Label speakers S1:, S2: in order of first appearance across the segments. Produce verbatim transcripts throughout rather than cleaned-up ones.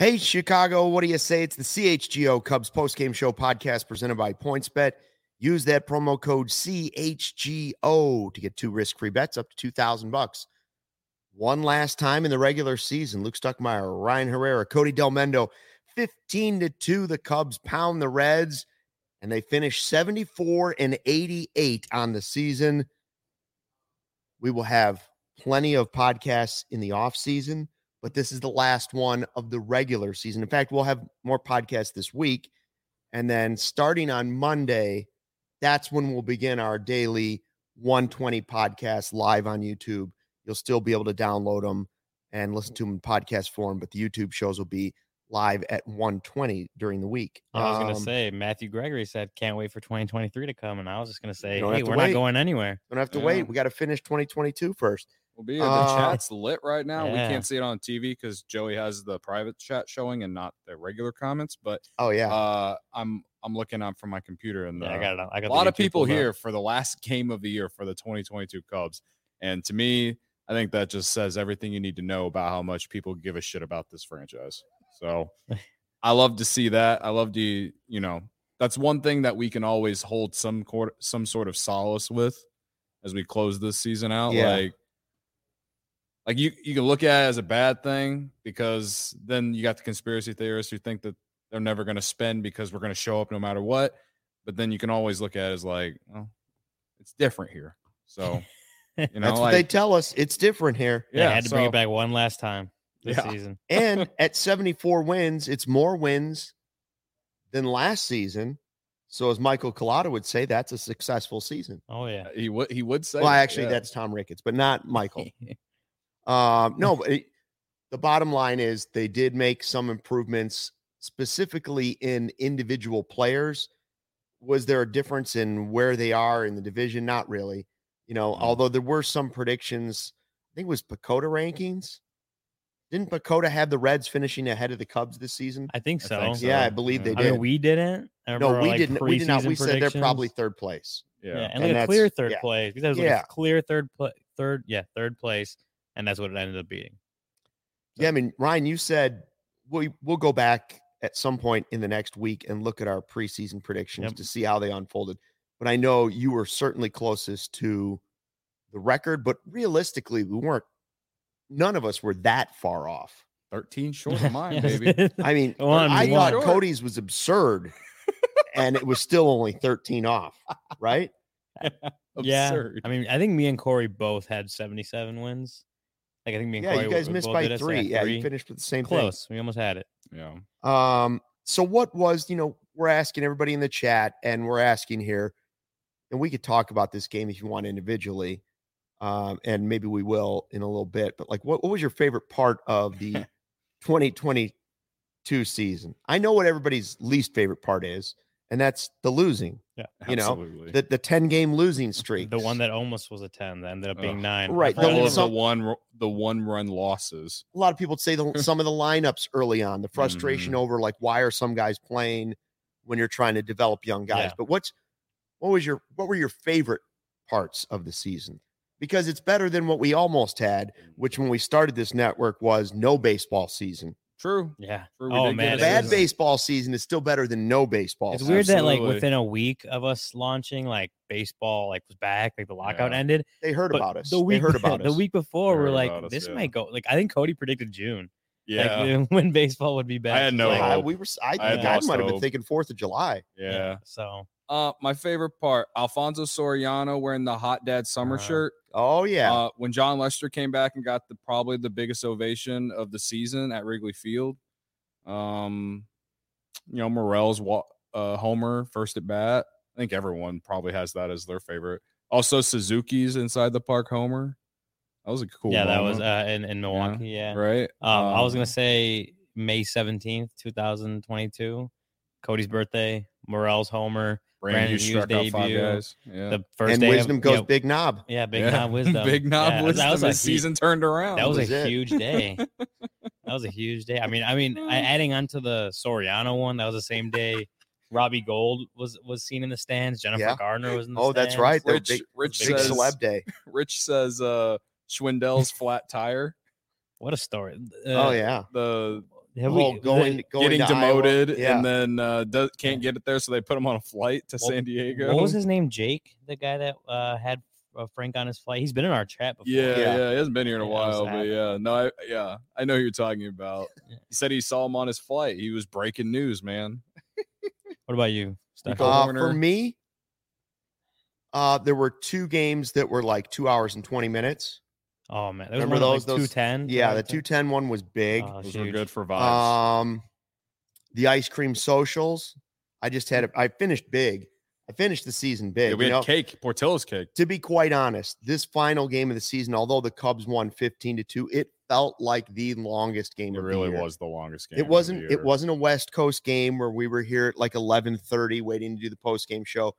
S1: Hey, Chicago, what do you say? It's the C H G O Cubs postgame show podcast presented by PointsBet. Use that promo code C H G O to get two risk-free bets up to two thousand bucks. One last time in the regular season, Luke Stuckmeyer, Ryan Herrera, Cody Delmendo, fifteen to two, the Cubs pound the Reds, and they finish seventy-four and eighty-eight on the season. We will have plenty of podcasts in the offseason, but this is the last one of the regular season. In fact, we'll have more podcasts this week, and then starting on Monday, that's when we'll begin our daily one twenty podcast live on YouTube. You'll still be able to download them and listen to them in podcast form, but the YouTube shows will be live at one twenty during the week.
S2: I was going to
S1: Um,
S2: say, Matthew Gregory said, can't wait for twenty twenty-three to come. And I was just going to say,
S1: don't
S2: hey,
S1: have to
S2: we're
S1: wait.
S2: not going anywhere.
S1: Don't have to
S3: Yeah.
S1: wait. We got to finish twenty twenty-two first.
S3: We'll be the
S1: Uh,
S3: chat's lit right now.
S2: yeah.
S3: We can't see it on T V because Joey has the private chat showing and not the regular comments. But
S1: Oh, yeah.
S3: uh, I'm I'm looking up from my computer and
S2: Yeah,
S3: uh,
S2: I got it. on- I got
S3: a
S2: the
S3: lot of
S2: YouTube
S3: people
S2: pulled up.
S3: here for the last game of the year for the twenty twenty-two Cubs. And to me, I think that just says everything you need to know about how much people give a shit about this franchise. So I love to see that. I love to, you know, that's one thing that we can always hold some court, some sort of solace with as we close this season out.
S1: Yeah.
S3: Like, like you, you can look at it as a bad thing because then you got the conspiracy theorists who think that they're never going to spend because we're going to show up no matter what. But then you can always look at it as like, well, it's different here. So, you know,
S1: That's what
S3: like,
S1: they tell us. It's different here.
S2: They
S3: yeah,
S2: had to bring
S3: so-
S2: it back one last time this
S3: Yeah.
S2: season.
S1: And at seventy-four wins, it's more wins than last season. So as Michael Collada would say, that's a successful season.
S2: Oh, yeah.
S3: he would, he would say,
S1: Well,
S3: that,
S1: actually,
S3: yeah.
S1: that's Tom Ricketts, but not Michael. Um, no, but it, the bottom line is they did make some improvements specifically in individual players. Was there a difference in where they are in the division? Not really. You know,
S3: Mm.
S1: although there were some predictions, I think it was Pacoda rankings. Didn't Pacoda have the Reds finishing ahead of the Cubs this season?
S2: I think
S3: I
S2: so.
S3: think so.
S1: Yeah, I believe they
S2: I
S1: did.
S2: mean, we didn't. I
S1: no,
S2: remember,
S1: we
S2: like,
S1: didn't. We did not. We
S2: preseason
S1: said they're probably
S2: predictions.
S1: third place.
S3: Yeah.
S2: Yeah, and,
S1: And
S2: like a
S1: that's-
S2: clear third
S1: yeah.
S2: place. Because it was like
S1: Yeah.
S2: a clear third, pla third, yeah, third place, and that's what it ended up being.
S1: Yeah, I mean, Ryan, you said we we'll go back at some point in the next week and look at our preseason predictions
S2: Yep.
S1: to see how they unfolded. But I know you were certainly closest to the record, but realistically, we weren't. None of us were that far off.
S3: thirteen short of mine,
S2: Yes.
S3: baby.
S1: I mean,
S2: One,
S1: I
S2: one.
S1: thought Cody's was absurd, and it was still only thirteen off, right?
S2: Yeah,
S3: Absurd.
S2: I mean, I think me and Corey both had seventy-seven wins. Like I think me and
S1: Yeah,
S2: Corey
S1: you guys
S2: we
S1: missed
S2: both
S1: by
S2: did it, so
S1: three. Yeah,
S2: three.
S1: you finished with the same
S2: Close. We almost had it.
S3: Yeah.
S1: thing. Um, so what was, you know, we're asking everybody in the chat, and we're asking here, and we could talk about this game if you want individually, um, and maybe we will in a little bit. But like, what, what was your favorite part of the twenty twenty-two season? I know what everybody's least favorite part is, and that's the losing.
S2: Yeah,
S1: You know,
S3: Absolutely.
S1: The the ten game losing streak.
S2: the one that almost was a ten that ended up being
S3: Ugh.
S2: nine.
S1: Right,
S2: I
S1: the-
S3: all
S2: forgot
S3: of
S2: it.
S3: the
S1: some-
S3: one the one run losses.
S1: A lot of people say the, some of the lineups early on, the frustration
S3: Mhm.
S1: over like why are some guys playing when you're trying to develop young guys.
S2: Yeah.
S1: But what's what was your what were your favorite parts of the season? Because it's better than what we almost had, which when we started this network was no baseball season.
S3: True.
S2: Yeah.
S3: True, we
S2: Oh
S3: did get
S2: man,
S3: a
S2: it
S1: Bad
S2: was-
S1: baseball season is still better than no baseball.
S2: It's
S1: season.
S2: weird that like
S3: Absolutely.
S2: within a week of us launching, like baseball like was back, like the lockout
S3: Yeah.
S2: ended.
S1: They heard
S2: But
S1: about us.
S2: The week
S1: they heard about
S2: the
S1: us.
S2: week before,
S3: They
S2: we're
S3: heard
S2: like,
S3: about us,
S2: this
S3: yeah.
S2: might go. Like I think Cody predicted June.
S3: Yeah.
S2: Like, when baseball would be back.
S3: I had no
S2: Like,
S1: I,
S3: hope.
S1: we were. I,
S3: I had
S1: I
S3: lost
S1: might have been
S3: hope.
S1: thinking Fourth of July.
S3: yeah.
S2: So
S3: Uh, my favorite part: Alfonso Soriano wearing the Hot Dad summer
S2: Uh,
S3: shirt.
S1: Oh yeah.
S3: Uh, when John Lester came back and got the probably the biggest ovation of the season at Wrigley Field. Um, you know, Morel's wa- uh, homer first at bat. I think everyone probably has that as their favorite. Also, Suzuki's inside the park homer. That was a cool.
S2: yeah, that was
S3: moment,
S2: uh in, in Milwaukee. Yeah.
S3: right.
S2: Um, I was gonna
S3: Um,
S2: say May seventeenth, two thousand twenty-two, Cody's birthday, Morel's homer,
S3: Brandon
S2: Brandon
S3: Hughes struck
S2: Hughes
S3: out five
S2: debut.
S3: guys. Yeah.
S2: the first
S1: and
S2: day
S1: wisdom
S2: of,
S1: goes
S2: yeah,
S1: big knob.
S2: Yeah, big
S3: Yeah.
S2: knob wisdom.
S3: Big knob
S2: yeah,
S3: wisdom.
S2: That was
S3: His
S2: a hu-
S3: season turned around.
S2: That was,
S1: was
S2: a
S1: it.
S2: huge day. That was a huge day. I mean, I mean, I, adding on to the Soriano one, that was the same day. Robbie Gold was was seen in the stands. Jennifer
S1: Yeah.
S2: Gardner was in the
S1: Oh,
S2: stands.
S1: that's right. They're
S3: Rich,
S1: big,
S3: Rich
S1: big
S3: says,
S1: celeb day.
S3: Rich says uh Schwindel's flat tire.
S2: What a story.
S1: Oh
S2: Uh,
S1: yeah.
S3: The
S2: Have
S1: Oh,
S2: we-
S1: going,
S2: the-
S1: going
S3: Getting
S1: to Iowa.
S3: demoted
S1: Yeah.
S3: and then uh, does, can't get it there, so they put him on a flight to
S2: Well,
S3: San Diego.
S2: What was his name? Jake, the guy that uh, had uh, Frank on his flight. He's been in our chat before.
S3: Yeah,
S1: Yeah.
S3: yeah, he hasn't been here in a
S2: Yeah, that was
S3: while, but
S2: that.
S3: yeah, no, I, yeah, I know who you're talking about.
S2: Yeah.
S3: He said he saw him on his flight. He was breaking news, man.
S2: What about you, Steph?
S3: Nico
S1: Uh,
S3: Horner.
S1: for me, uh, there were two games that were like two hours and twenty minutes.
S2: Oh man, there was
S1: Remember
S2: one
S1: those-
S2: Like
S1: those-
S2: two ten.
S1: Yeah, the two ten one was big.
S2: Oh,
S3: Those
S2: huge.
S3: were good for vibes.
S1: Um, the ice cream socials. I just had. A, I finished big. I finished the season big.
S3: yeah, we
S1: you
S3: had
S1: know?
S3: cake, Portillo's cake.
S1: To be quite honest, this final game of the season, although the Cubs won fifteen to two, it felt like the longest game
S3: It
S1: of
S3: really
S1: the year.
S3: was the longest game.
S1: It
S3: of the
S1: wasn't.
S3: year.
S1: It wasn't a West Coast game where we were here at like eleven thirty waiting to do the post game show.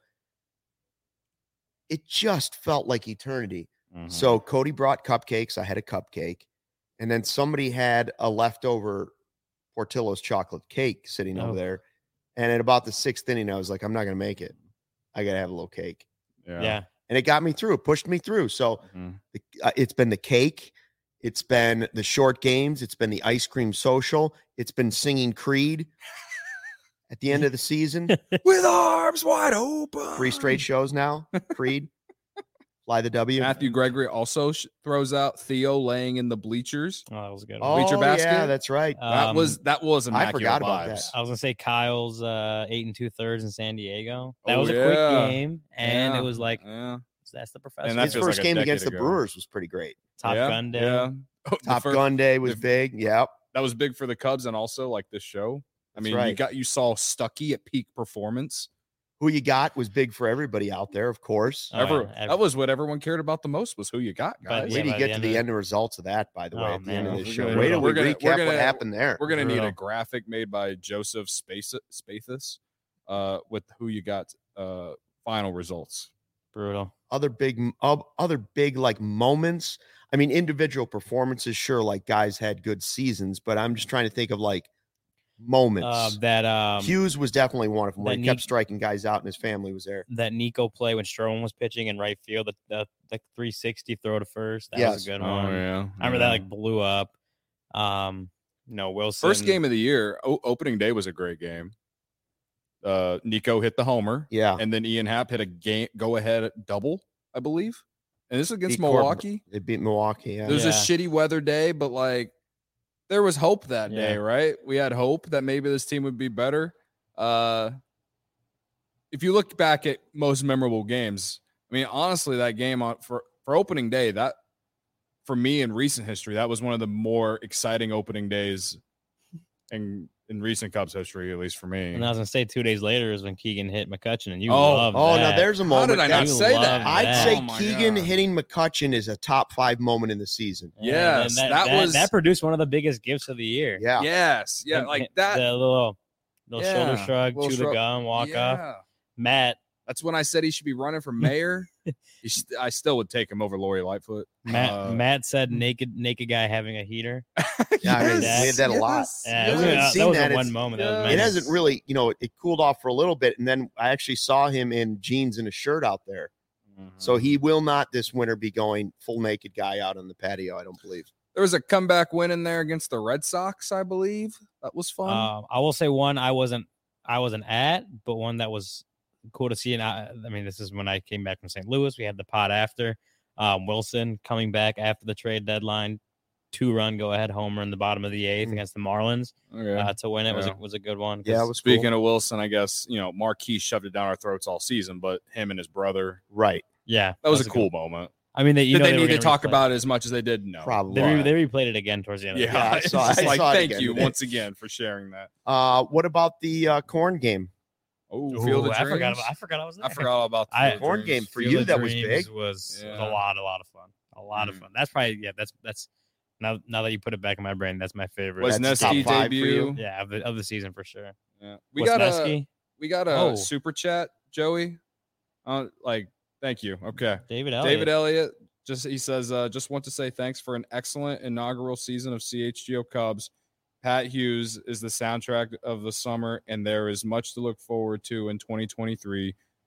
S1: It just felt like eternity.
S3: Mhm.
S1: So Cody brought cupcakes. I had a cupcake, and then somebody had a leftover Portillo's chocolate cake sitting
S2: Oh.
S1: over there. And at about the sixth inning, I was like, I'm not going to make it. I got to have a little cake.
S3: yeah.
S2: Yeah.
S1: And it got me through. It pushed me through. So
S3: Mhm.
S1: the, uh, it's been the cake. It's been the short games. It's been the ice cream social. It's been singing Creed at the end of the season.
S3: With arms wide open.
S1: Three straight shows now. Creed. Fly the W.
S3: Matthew Gregory also sh- throws out Theo laying in the bleachers.
S2: Oh, that was a good.
S1: Oh,
S2: one.
S3: Bleacher
S1: yeah,
S3: basket?
S1: that's right.
S3: That
S2: Um,
S3: was that was
S1: I
S3: immaculate
S1: forgot about
S3: vibes.
S2: I was gonna say Kyle's uh, eight and two thirds in San Diego. That
S3: Oh,
S2: was a
S3: yeah.
S2: quick game, and
S3: Yeah,
S2: it was like
S3: yeah,
S2: that's the professor.
S3: And that
S1: His
S3: feels
S1: first
S3: like a
S1: game against the
S3: decade ago.
S1: Brewers was pretty great.
S2: Top
S3: yeah,
S2: Gun Day.
S3: Yeah. Oh, the
S1: Top
S3: fir-
S1: Gun Day was
S3: the-
S1: big. Yep.
S3: That was big for the Cubs and also like this show. I
S1: That's
S3: mean, you
S1: right.
S3: got you saw Stuckey at peak performance.
S1: Who you got was big for everybody out there, of course.
S2: Oh,
S3: Ever,
S2: yeah, ev-
S3: that was what everyone cared about the most was who you got,
S2: But,
S3: guys.
S2: yeah,
S1: Wait till
S2: by
S1: you
S2: the
S1: get to
S2: end
S1: the
S2: of-
S1: end results of that, by the way,
S2: Oh,
S1: at the
S2: man.
S1: end of
S3: We're
S1: this
S3: gonna-
S1: show. Wait till we
S3: we're gonna-
S1: recap
S3: we're
S1: what
S3: gonna-
S1: happened there.
S3: We're gonna need a
S2: Brutal.
S3: graphic made by Joseph Space Spathis uh, with who you got uh, final results.
S2: Brutal.
S1: Other big, uh, other big like moments. I mean, individual performances, sure, like guys had good seasons, but I'm just trying to think of like moments.
S2: Uh, that um,
S1: Hughes was definitely one of them where
S2: that
S1: he kept
S2: Nick-
S1: striking guys out and his family was there.
S2: that Nico play when Stroman was pitching in right field, the the, the three sixty throw to first. That
S1: Yes.
S2: was a good
S3: Oh
S2: one.
S3: yeah,
S2: I remember that like blew up. Um, no Wilson.
S3: first game of the year. O- opening day was a great game. Uh, Nico hit the homer,
S1: Yeah.
S3: and then Ian Happ hit a game go ahead double, I believe. And this is against
S1: Beat Corbin.
S3: Milwaukee.
S1: They beat Milwaukee. Yeah.
S3: It was
S2: Yeah.
S3: a shitty weather day, but like there was hope that day,
S2: Yeah.
S3: right? We had hope that maybe this team would be better. Uh if you look back at most memorable games, I mean, honestly, that game on for, for opening day, that for me in recent history, that was one of the more exciting opening days in in recent Cubs history, at least for me.
S2: And I was gonna say two days later is when Keegan hit McCutcheon, and you
S3: Oh,
S2: love
S1: Oh,
S2: that.
S1: now there's a
S3: How
S1: moment.
S3: did I
S1: that-
S3: not
S2: You
S3: say
S2: love
S3: that?
S1: I'd
S2: that.
S1: say
S3: Oh my
S1: Keegan
S3: God.
S1: hitting McCutcheon is a top five moment in the season.
S2: Yeah, and
S3: Yes,
S2: that,
S3: that
S2: that,
S3: was-
S2: that produced one of the biggest gifts of the year.
S1: Yeah.
S3: Yes, yeah,
S2: And-
S3: like
S2: and
S3: that.
S2: The little, little shoulder
S3: Yeah,
S2: shrug,
S3: little
S2: chew
S3: shrug.
S2: the gum, walk off.
S3: Yeah.
S2: Matt,
S3: That's when I said he should be running for mayor. He st- I still would take him over Lori Lightfoot.
S2: Matt,
S3: Uh,
S2: Matt said naked, naked guy having a heater.
S1: Yeah, I mean,
S2: we had
S1: that a lot.
S3: yes,
S2: Yeah, it was,
S1: I haven't
S2: that
S1: seen
S2: was
S1: that.
S2: a one
S1: It's-
S2: moment. That
S3: yeah.
S2: was
S1: It
S2: amazing.
S1: hasn't really, you know, it cooled off for a little bit, and then I actually saw him in jeans and a shirt out there. So he will not this winter be going full naked guy out on the patio. I don't believe.
S3: There was a comeback win in there against the Red Sox, I believe. That was fun.
S2: Um, I will say one I wasn't I wasn't at, but one that was cool to see. And I, I mean, this is when I came back from Saint Louis. We had the pot after um, Wilson coming back after the trade deadline, two run go ahead homer in the bottom of the eighth
S1: Mm.
S2: against the Marlins
S3: okay.
S2: uh, to win it was a,
S3: Yeah.
S2: was a good one.
S1: Yeah, it
S2: 'cause-
S1: was
S3: Speaking
S1: cool.
S3: of Wilson, I guess, you know, Marquis shoved it down our throats all season, but him and his brother,
S1: Right.
S2: yeah,
S3: that was a
S2: good
S3: cool
S2: one.
S3: moment.
S2: I mean, they, you
S3: Did
S2: know,
S3: they,
S2: were
S3: need to
S2: gonna
S3: talk
S2: replay-
S3: about it as much as they did? No.
S1: Probably.
S2: They, re- they replayed it again towards the end.
S3: Yeah,
S2: of the game.
S1: I
S3: it's
S1: saw-
S3: just
S1: I
S3: like,
S1: saw it
S3: thank
S1: again
S3: you
S1: today.
S3: once again for sharing that.
S1: Uh, what about the uh, corn game?
S3: Oh,
S2: Ooh,
S3: Field of
S2: I forgot.
S3: Dreams?
S2: About, I forgot I was there.
S3: I forgot all about the
S2: I-
S3: Field of
S1: Corn
S3: Dreams.
S1: game for
S2: Field
S1: you,
S2: of
S1: that was
S2: Dreams
S1: big.
S2: Was, was
S3: Yeah.
S2: a lot, a lot of fun. A lot of
S3: Mm.
S2: fun. That's probably yeah. That's that's now now that you put it back in my brain, that's my favorite.
S3: Was
S1: That's top
S3: Nesky
S1: five for
S3: debut?
S1: you?
S2: Yeah, of the, of the season for sure.
S3: Yeah. We got a we got a
S2: Oh.
S3: super chat, Joey. Uh, like, thank you. Okay.
S2: David Elliott.
S3: David Elliott just he says, uh, just want to say thanks for an excellent inaugural season of C H G O Cubs. Pat Hughes is the soundtrack of the summer, and there is much to look forward to in twenty twenty-three.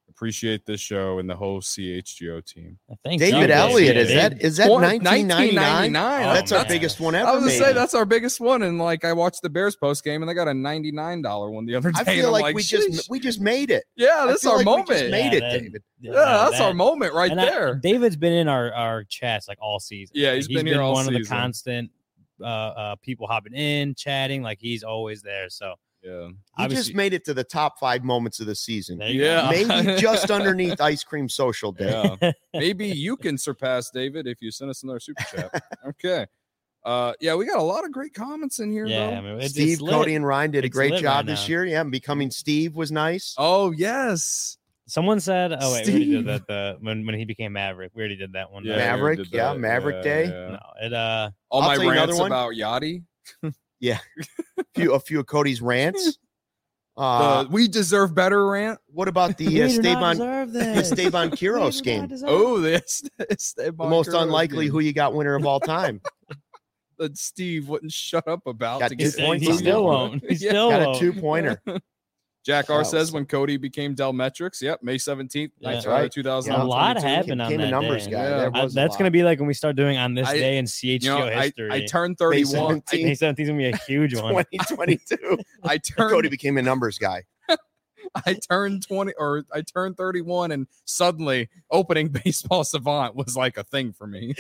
S3: Appreciate this show and the whole C H G O team.
S2: Thank
S1: David
S2: you,
S1: Elliott,
S2: David.
S1: is that is that nineteen ninety-nine?
S3: Oh,
S1: That's our
S2: man.
S1: biggest one ever.
S3: I was gonna
S1: made.
S3: say that's our biggest one, and like I watched the Bears post game, and they got a ninety-nine dollar one the other day.
S1: I
S3: and
S1: feel
S3: I'm
S1: like, we
S3: "Sheesh."
S1: just we just made it.
S3: yeah,
S1: I
S3: that's
S1: feel
S3: our
S1: like we
S3: moment.
S1: just made
S2: Yeah,
S1: it,
S2: that-
S1: David.
S3: yeah,
S2: no,
S3: that's
S2: that-
S3: our moment right
S2: and I-
S3: there.
S2: David's been in our, our chats like all season.
S3: Yeah,
S2: Like,
S3: he's been here all
S2: one of the
S3: season.
S2: constant uh, uh, people hopping in, chatting. Like he's always there. So
S3: yeah,
S1: He
S2: obviously-
S1: just made it to the top five moments of the season.
S2: there you
S3: Yeah.
S2: go.
S1: Maybe just underneath Ice Cream Social Day.
S3: yeah. Maybe you can surpass David if you send us another super chat. Okay. Uh, yeah, we got a lot of great comments in here.
S2: Yeah,
S3: though.
S2: I mean, it's,
S1: Steve,
S2: it's lit.
S1: Cody, and Ryan did a
S2: It's
S1: great
S2: lit
S1: job
S2: right
S1: this
S2: now.
S1: year. Yeah, becoming Steve was nice.
S3: Oh yes,
S2: Someone said, "Oh wait, we already
S3: Steve.
S2: did that." The when when he became Maverick, we already did that one.
S3: Yeah,
S2: right?
S3: we
S1: Maverick,
S3: did
S1: yeah,
S3: that.
S1: Maverick
S3: Yeah,
S1: Day.
S3: yeah.
S2: No, it uh,
S3: All
S1: I'll
S3: my
S1: tell you another
S3: rants
S1: one.
S3: about Yachty.
S1: A few, a few of Cody's rants. Uh,
S3: the we deserve better rant.
S1: what about the
S2: we
S1: uh,
S2: do not
S1: Esteban,
S2: deserve
S1: the
S2: this.
S1: Esteban
S2: We
S1: Kiros
S2: do
S1: game?
S2: not deserve
S3: Oh, this is
S1: The most unlikely who you got winner of all time.
S3: that Steve wouldn't shut up about
S1: Got
S3: to
S1: two
S3: get
S2: He,
S1: points
S2: he
S1: on
S2: still
S1: that one.
S2: won't. He
S3: Yeah.
S2: still
S1: Got a
S2: won't.
S1: two pointer.
S3: Jack R
S1: Wow.
S3: says when Cody became Delmetrics. Yep, May seventeenth,
S2: Yeah.
S1: That's right.
S3: two thousand.
S2: A lot
S1: twenty-two.
S2: happened on
S1: Became a
S2: that
S1: numbers
S2: day.
S1: guy.
S3: Yeah.
S1: That
S2: Uh,
S1: was a
S2: that's
S1: lot.
S2: gonna be like when we start doing on this
S3: I-
S2: day in C H G
S3: You
S2: O
S3: know, I,
S2: history.
S3: I turned thirty-one.
S1: seventeenth.
S2: May seventeenth is gonna be a huge one.
S1: twenty twenty-two.
S3: I, I
S1: Cody
S3: turned
S1: became a numbers guy.
S3: I turned twenty or I turned thirty-one, and suddenly opening baseball savant was like a thing for me.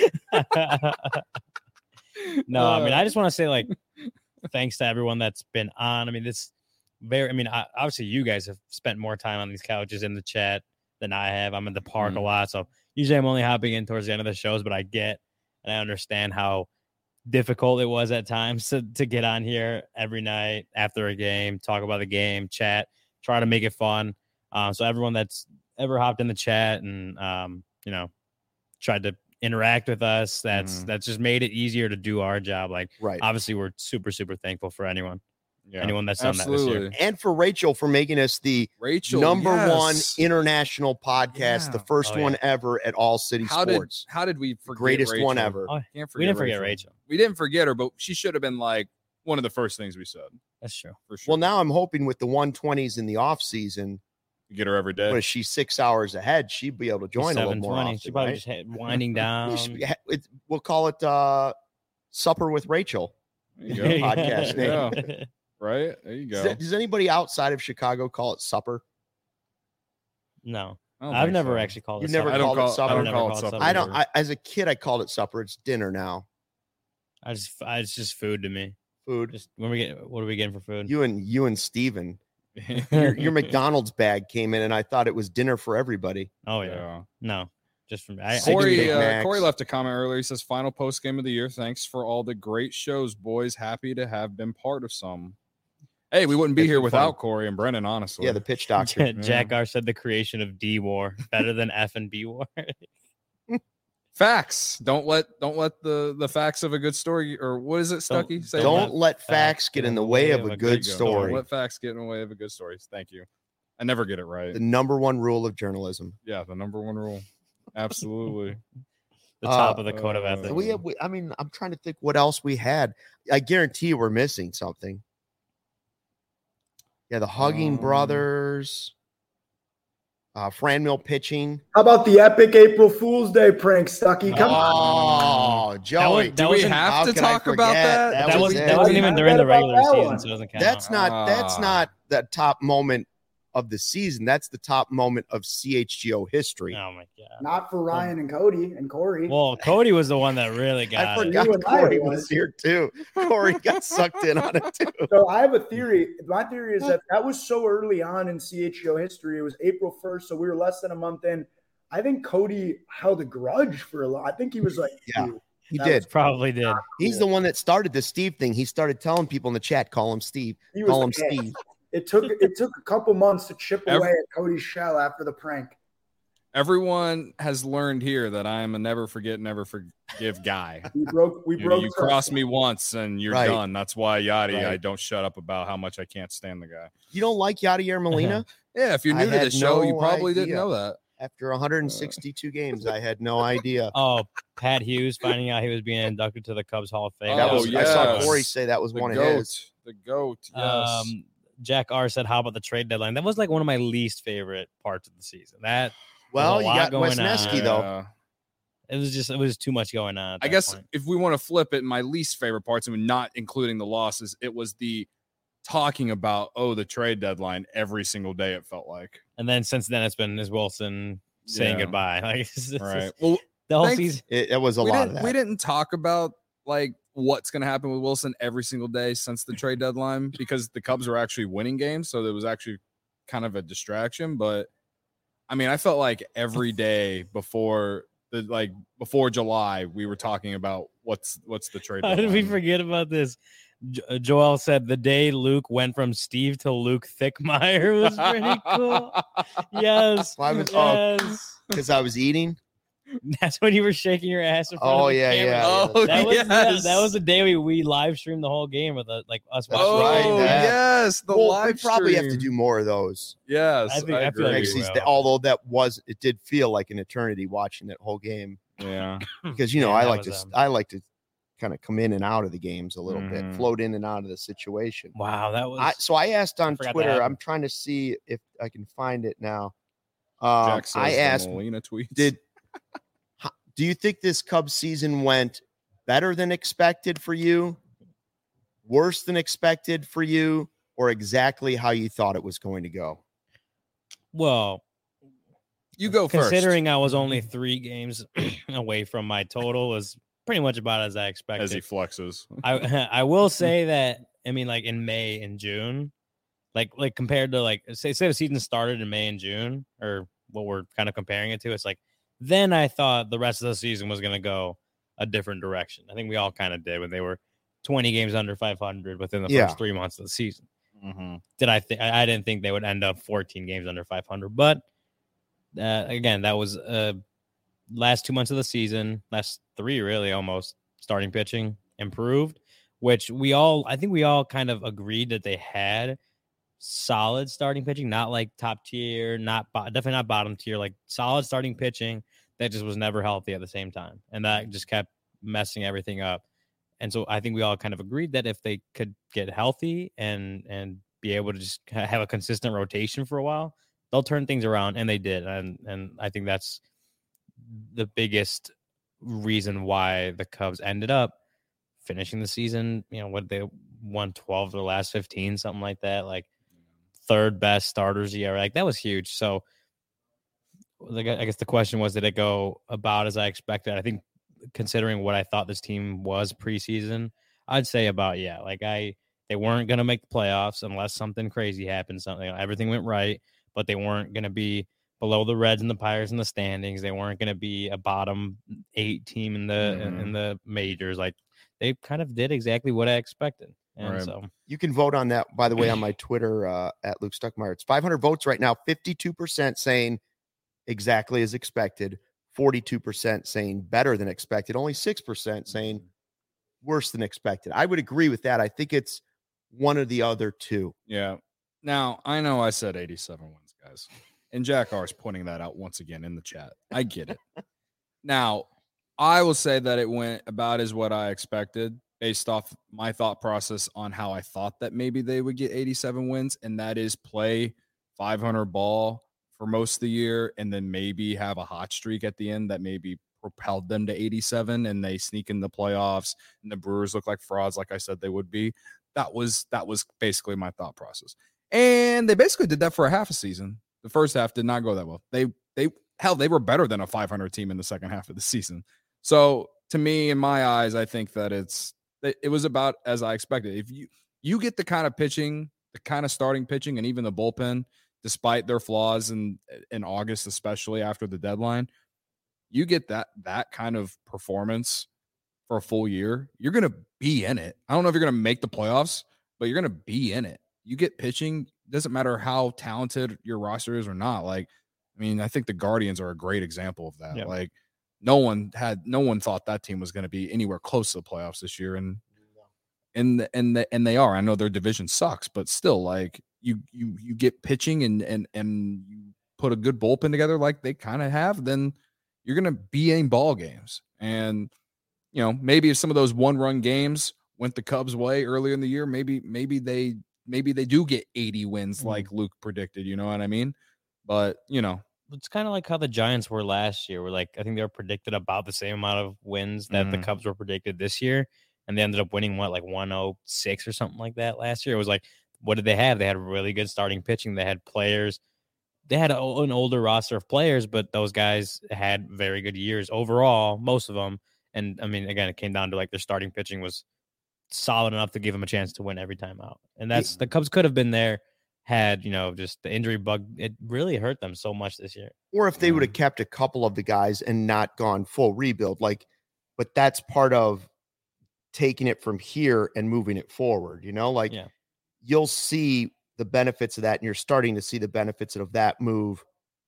S2: No, I mean,
S3: Uh,
S2: I just want to say, like, thanks to everyone that's been on. I mean, this very, I mean, I, obviously, you guys have spent more time on these couches in the chat than I have. I'm in the park
S3: Mhm.
S2: a lot. So usually I'm only hopping in towards the end of the shows, but I get and I understand how difficult it was at times to, to get on here every night after a game, talk about the game, chat, try to make it fun. Um, so everyone that's ever hopped in the chat and, um, you know, tried to interact with us, that's
S3: Mhm.
S2: that's just made it easier to do our job. Like,
S1: Right.
S2: obviously, we're super, super thankful for anyone,
S3: Yeah,
S2: anyone that's done that this year.
S3: absolutely.
S1: And for Rachel for making us the
S3: Rachel,
S1: number one
S3: yes.
S1: international podcast, the
S3: Yeah.
S1: first
S2: Oh, yeah.
S1: one ever at All City
S3: How
S1: Sports.
S3: did how did we forget
S1: Greatest one
S3: Rachel?
S1: ever.
S2: Oh,
S3: Can't forget
S2: we didn't forget Rachel.
S3: We didn't forget her, but she should have been like one of the first things we said
S2: That's true.
S3: for sure.
S1: Well, now I'm hoping with the one twenties in the off season,
S3: You get her every day.
S1: when she's six hours ahead, she'd be able to join a little more often.
S2: She probably
S1: right?
S2: just had winding
S1: Yeah,
S2: down.
S1: she- ha- it- we'll call it uh, Supper with Rachel.
S3: There you go.
S1: podcast name.
S3: Yeah. Right? There you
S1: Does,
S3: go.
S1: that- does anybody outside of Chicago call it supper?
S2: No,
S3: I don't
S2: I've
S3: think
S2: never
S3: so.
S2: actually called
S1: You've
S2: it.
S1: never
S2: supper.
S3: I don't
S1: called it
S3: call,
S1: supper?
S3: I don't
S2: Never
S3: call it
S2: called
S3: supper.
S2: supper.
S1: I don't.
S3: either.
S1: I, as a kid, I called it supper. It's dinner now.
S2: I just, I, it's just food to me.
S1: Food.
S2: Just when we get, what are we getting for food?
S1: You and you and Steven. Your, your McDonald's bag came in, and I thought it was dinner for everybody.
S2: Oh yeah,
S3: Yeah.
S2: no, just for me. I, I
S1: Six
S2: do
S1: Big
S3: Corey,
S2: that.
S3: uh,
S1: Macs.
S3: Corey left a comment earlier. He says, "Final post game of the year. Thanks for all the great shows, boys. Happy to have been part of some." Hey, we wouldn't be
S1: It's
S3: here
S1: been
S3: without
S1: fun.
S3: Corey and Brennan, honestly.
S1: Yeah, the pitch doctor.
S2: Jack R said the creation of D War better than F and B War.
S3: Facts. Don't let don't let the the facts of a good story, or what is it,
S2: Don't-
S3: Stucky? Say
S1: Don't
S3: that.
S1: let facts get in the way of a
S3: There
S1: good
S3: you go.
S1: story.
S3: Don't let facts get in the way of a good story. Thank you. I never get it right.
S1: The number one rule of journalism.
S3: Yeah, the number one rule. Absolutely.
S2: The top
S1: Uh,
S2: of the code of
S3: uh,
S2: ethics.
S1: We, have, we, I mean, I'm trying to think what else we had. I guarantee you we're missing something. Yeah, the Hugging
S3: Um,
S1: Brothers, uh, Franmil pitching.
S4: How about the epic April Fool's Day prank, Stucky? Come on.
S1: Oh, Joey.
S2: that
S3: Do we
S2: wasn't-
S3: have
S1: how
S3: to
S1: could I
S3: talk about
S1: forget?
S3: that?
S1: That
S2: that
S1: was
S2: was
S1: it.
S2: that wasn't even during the
S4: Forget about
S2: regular
S4: that
S2: season,
S4: one.
S2: so it doesn't count.
S1: That's not that's
S3: Ah.
S1: not the top moment of the season. That's the top moment of C H G O history.
S2: Oh my god.
S4: Not for Ryan and Cody and Corey.
S2: Well, Cody was the one that really
S1: I
S2: got it.
S1: forgot
S4: You and I
S1: Corey
S4: was.
S1: was here too. Corey got sucked in on it too.
S4: So I have a theory. My theory is that that was so early on in C H G O history. It was April first, so we were less than a month in. I think Cody held a grudge for a lot. I think he was like,
S1: Yeah.
S4: "Dude,
S1: He
S4: that
S1: did.
S4: was
S2: Probably did.
S1: He's the one that started the Steve thing. He started telling people in the chat, call him Steve.
S4: He was
S1: Call him
S4: pissed.
S1: Steve.
S4: It took it took a couple months to chip
S3: Every-
S4: away at Cody's shell after the prank.
S3: Everyone has learned here that I am a never forget, never forgive guy.
S4: We broke. We
S3: You,
S4: broke.
S3: you
S4: trust.
S3: cross me once and you're
S1: Right.
S3: done. That's why Yachty,
S1: Right.
S3: I don't shut up about how much I can't stand the guy.
S1: You don't like Yadier Molina?
S3: Yeah, if you're
S1: I
S3: new to
S1: had
S3: the show, you
S1: no
S3: probably didn't
S1: idea.
S3: know that.
S1: After one hundred sixty-two games, I had no idea.
S2: Oh, Pat Hughes finding out he was being inducted to the Cubs Hall of Fame.
S1: That
S3: Oh,
S1: was I saw
S3: yes.
S1: Corey say that was
S3: The
S1: one
S3: goat.
S1: of his.
S3: The goat. Yes.
S2: Um, Jack R said, "How about the trade deadline?" That was like one of my least favorite parts of the season. That
S1: well,
S2: a
S1: you
S2: lot
S1: got
S2: going
S1: Wisniewski
S2: on.
S1: though.
S3: Yeah.
S2: It was just it was too much going on. at
S3: I
S2: that
S3: guess
S2: point.
S3: if we want to flip it, my least favorite parts, and not including the losses, it was the talking about, oh, the trade deadline every single day, it felt like.
S2: And then since then, it's been is Wilson saying
S3: Yeah.
S2: goodbye. Like it's, it's
S3: Right.
S2: just-
S3: Well,
S2: the whole
S3: thanks-
S2: season.
S1: It, it was a
S3: we
S1: lot
S3: didn't,
S1: of that.
S3: we didn't talk about like what's going to happen with Wilson every single day since the trade deadline because the Cubs were actually winning games. So there was actually kind of a distraction. But I mean, I felt like every day before the like before July, we were talking about what's what's the trade
S2: How
S3: deadline.
S2: did we forget about this? Jo- uh, Joel said the day Luke went from Steve to Luke Thickmeyer was pretty cool. Yes,
S1: Well, I was- oh.
S2: yes.
S1: Because I was eating.
S2: That's when you were shaking your ass in front
S1: Oh
S2: of the
S1: yeah,
S2: camera.
S1: yeah.
S3: Oh,
S1: yeah,
S2: That was
S3: yes.
S2: that, that was the day we, we live streamed the whole game with uh, like us.
S1: That's
S2: watching the
S1: right,
S2: game.
S3: Oh,
S1: that-
S3: yes. The
S1: Well, we
S3: live
S1: probably have to
S3: stream.
S1: do more of those
S3: Yes.
S2: I think-
S3: I
S2: I feel like
S3: agree.
S1: next
S2: we
S1: season.
S2: will.
S1: Although that was, it did feel like an eternity watching that whole game
S3: Yeah.
S1: because you know
S2: Yeah,
S1: I
S2: that
S1: like to,
S2: was, um,
S1: I like to kind of come in and out of the games a little
S3: Mhm.
S1: bit, float in and out of the situation.
S2: Wow, that was.
S1: I, so I asked on
S2: forgot that
S1: Twitter.
S2: happened.
S1: I'm trying to see if I can find it now. Um,
S3: Jack says
S1: I
S3: the
S1: asked,
S3: Molina tweets.
S1: did ho- do you think this Cubs season went better than expected for you, worse than expected for you, or exactly how you thought it was going to go?
S2: well,
S3: you go first?
S2: considering I was only three games away from my total, was pretty much about as I expected.
S3: as he flexes.
S2: I I will say that I mean like in May and June, like like compared to like say say the season started in May and June or what we're kind of comparing it to, it's like then I thought the rest of the season was gonna go a different direction. I think we all kind of did when they were twenty games under five hundred within the
S1: Yeah.
S2: first three months of the season.
S3: Mm-hmm.
S2: Did I think I I didn't think they would end up fourteen games under five hundred, but uh, again, that was uh last two months of the season, last three really almost starting pitching improved, which we all I think we all kind of agreed that they had solid starting pitching, not like top tier, not bo- definitely not bottom tier, like solid starting pitching that just was never healthy at the same time, and that just kept messing everything up. And so I think we all kind of agreed that if they could get healthy and and be able to just ha- have a consistent rotation for a while, they'll turn things around, and they did. And and I think that's the biggest reason why the Cubs ended up finishing the season. You know, what they won twelve of the last fifteen, something like that. Like third best starters E R A. Like that was huge. So like, I guess the question was, did it go about as I expected? I think considering what I thought this team was preseason, I'd say about, yeah, like I, they weren't going to make the playoffs unless something crazy happened. Something, everything went right, but they weren't going to be below the Reds and the Pirates in the standings. They weren't going to be a bottom eight team in the, in,
S3: Mhm.
S2: in the majors. Like they kind of did exactly what I expected. And
S3: Right.
S2: so
S1: You can vote on that, by the way, on my Twitter uh, at Luke Stuckmeyer. It's five hundred votes right now. fifty-two percent saying exactly as expected. forty-two percent saying better than expected. Only six percent saying worse than expected. I would agree with that. I think it's one or the other two.
S3: Yeah. Now, I know I said eighty-seven wins, guys. And Jack R is pointing that out once again in the chat. I get it. Now, I will say that it went about as what I expected based off my thought process on how I thought that maybe they would get eighty-seven wins, and that is play five hundred ball for most of the year and then maybe have a hot streak at the end that maybe propelled them to eighty-seven and they sneak in the playoffs and the Brewers look like frauds like I said they would be. That was that was basically my thought process. And they basically did that for a half a season. The first half did not go that well. They they hell they were better than a five hundred team in the second half of the season. So to me, in my eyes, I think that it's it, it was about as I expected. If you you get the kind of pitching, the kind of starting pitching, and even the bullpen, despite their flaws in in August, especially after the deadline, you get that that kind of performance for a full year, you're gonna be in it. I don't know if you're gonna make the playoffs, but you're gonna be in it. You get pitching, doesn't matter how talented your roster is or not. Like, I mean, I think the Guardians are a great example of that.
S2: Yep.
S3: Like, no one had, no one thought that team was going to be anywhere close to the playoffs this year, and and and the, and they are. I know their division sucks, but still, like you you you get pitching and and and you put a good bullpen together, like they kind of have, then you're going to be in ball games. And you know, maybe if some of those one run games went the Cubs' way earlier in the year, maybe maybe they maybe they do get eighty wins
S2: Mhm.
S3: like Luke predicted. You know what I mean? But you know,
S2: It's kind of like how the Giants were last year. Where like I think they were predicted about the same amount of wins that the
S3: Mhm.
S2: Cubs were predicted this year, and they ended up winning what like one oh six or something like that last year. It was like, what did they have? They had really good starting pitching. They had players. They had a, an older roster of players, but those guys had very good years overall, most of them. And I mean, again, it came down to like their starting pitching was solid enough to give them a chance to win every time out. And that's the Cubs could have been there had, you know, just the injury bug. It really hurt them so much this year.
S1: Or if they
S3: Yeah.
S1: would have kept a couple of the guys and not gone full rebuild, like, but that's part of taking it from here and moving it forward. You know, like
S2: Yeah.
S1: you'll see the benefits of that, and you're starting to see the benefits of that move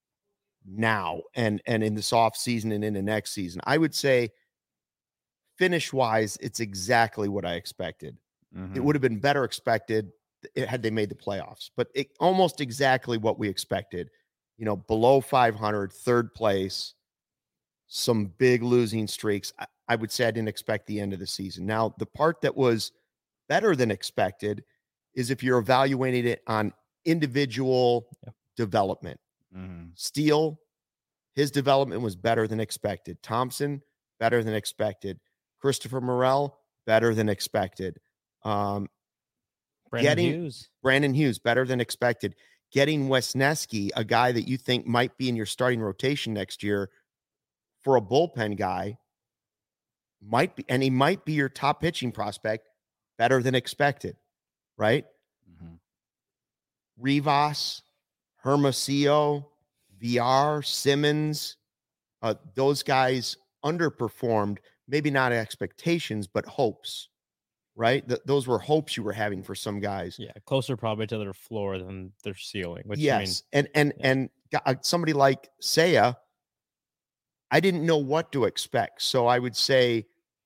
S1: now and and in this off season and in the next season. I would say finish wise, it's exactly what I expected.
S3: Mhm.
S1: It would have been better expected it, had they made the playoffs, but it, almost exactly what we expected. You know, below five hundred, third place, some big losing streaks. I, I would say I didn't expect the end of the season. Now, the part that was better than expected is if you're evaluating it on individual
S2: Yeah.
S1: development.
S3: Mhm.
S1: Steele, his development was better than expected. Thompson, better than expected. Christopher Morel, better than expected. Um,
S2: Brandon
S1: Getting-
S2: Hughes.
S1: Brandon Hughes, better than expected. Getting Wesneski, a guy that you think might be in your starting rotation next year for a bullpen guy, might be, and he might be your top pitching prospect, better than expected, right?
S3: Mhm.
S1: Rivas, Hermosillo, V R, Simmons, uh, those guys underperformed, maybe not expectations, but hopes, right? Th- those were hopes you were having for some guys.
S2: Yeah, closer probably to their floor than their ceiling. Which
S1: yes,
S2: I mean,
S1: and and
S2: yeah.
S1: and g- uh, somebody like Seiya, I didn't know what to expect, so I would say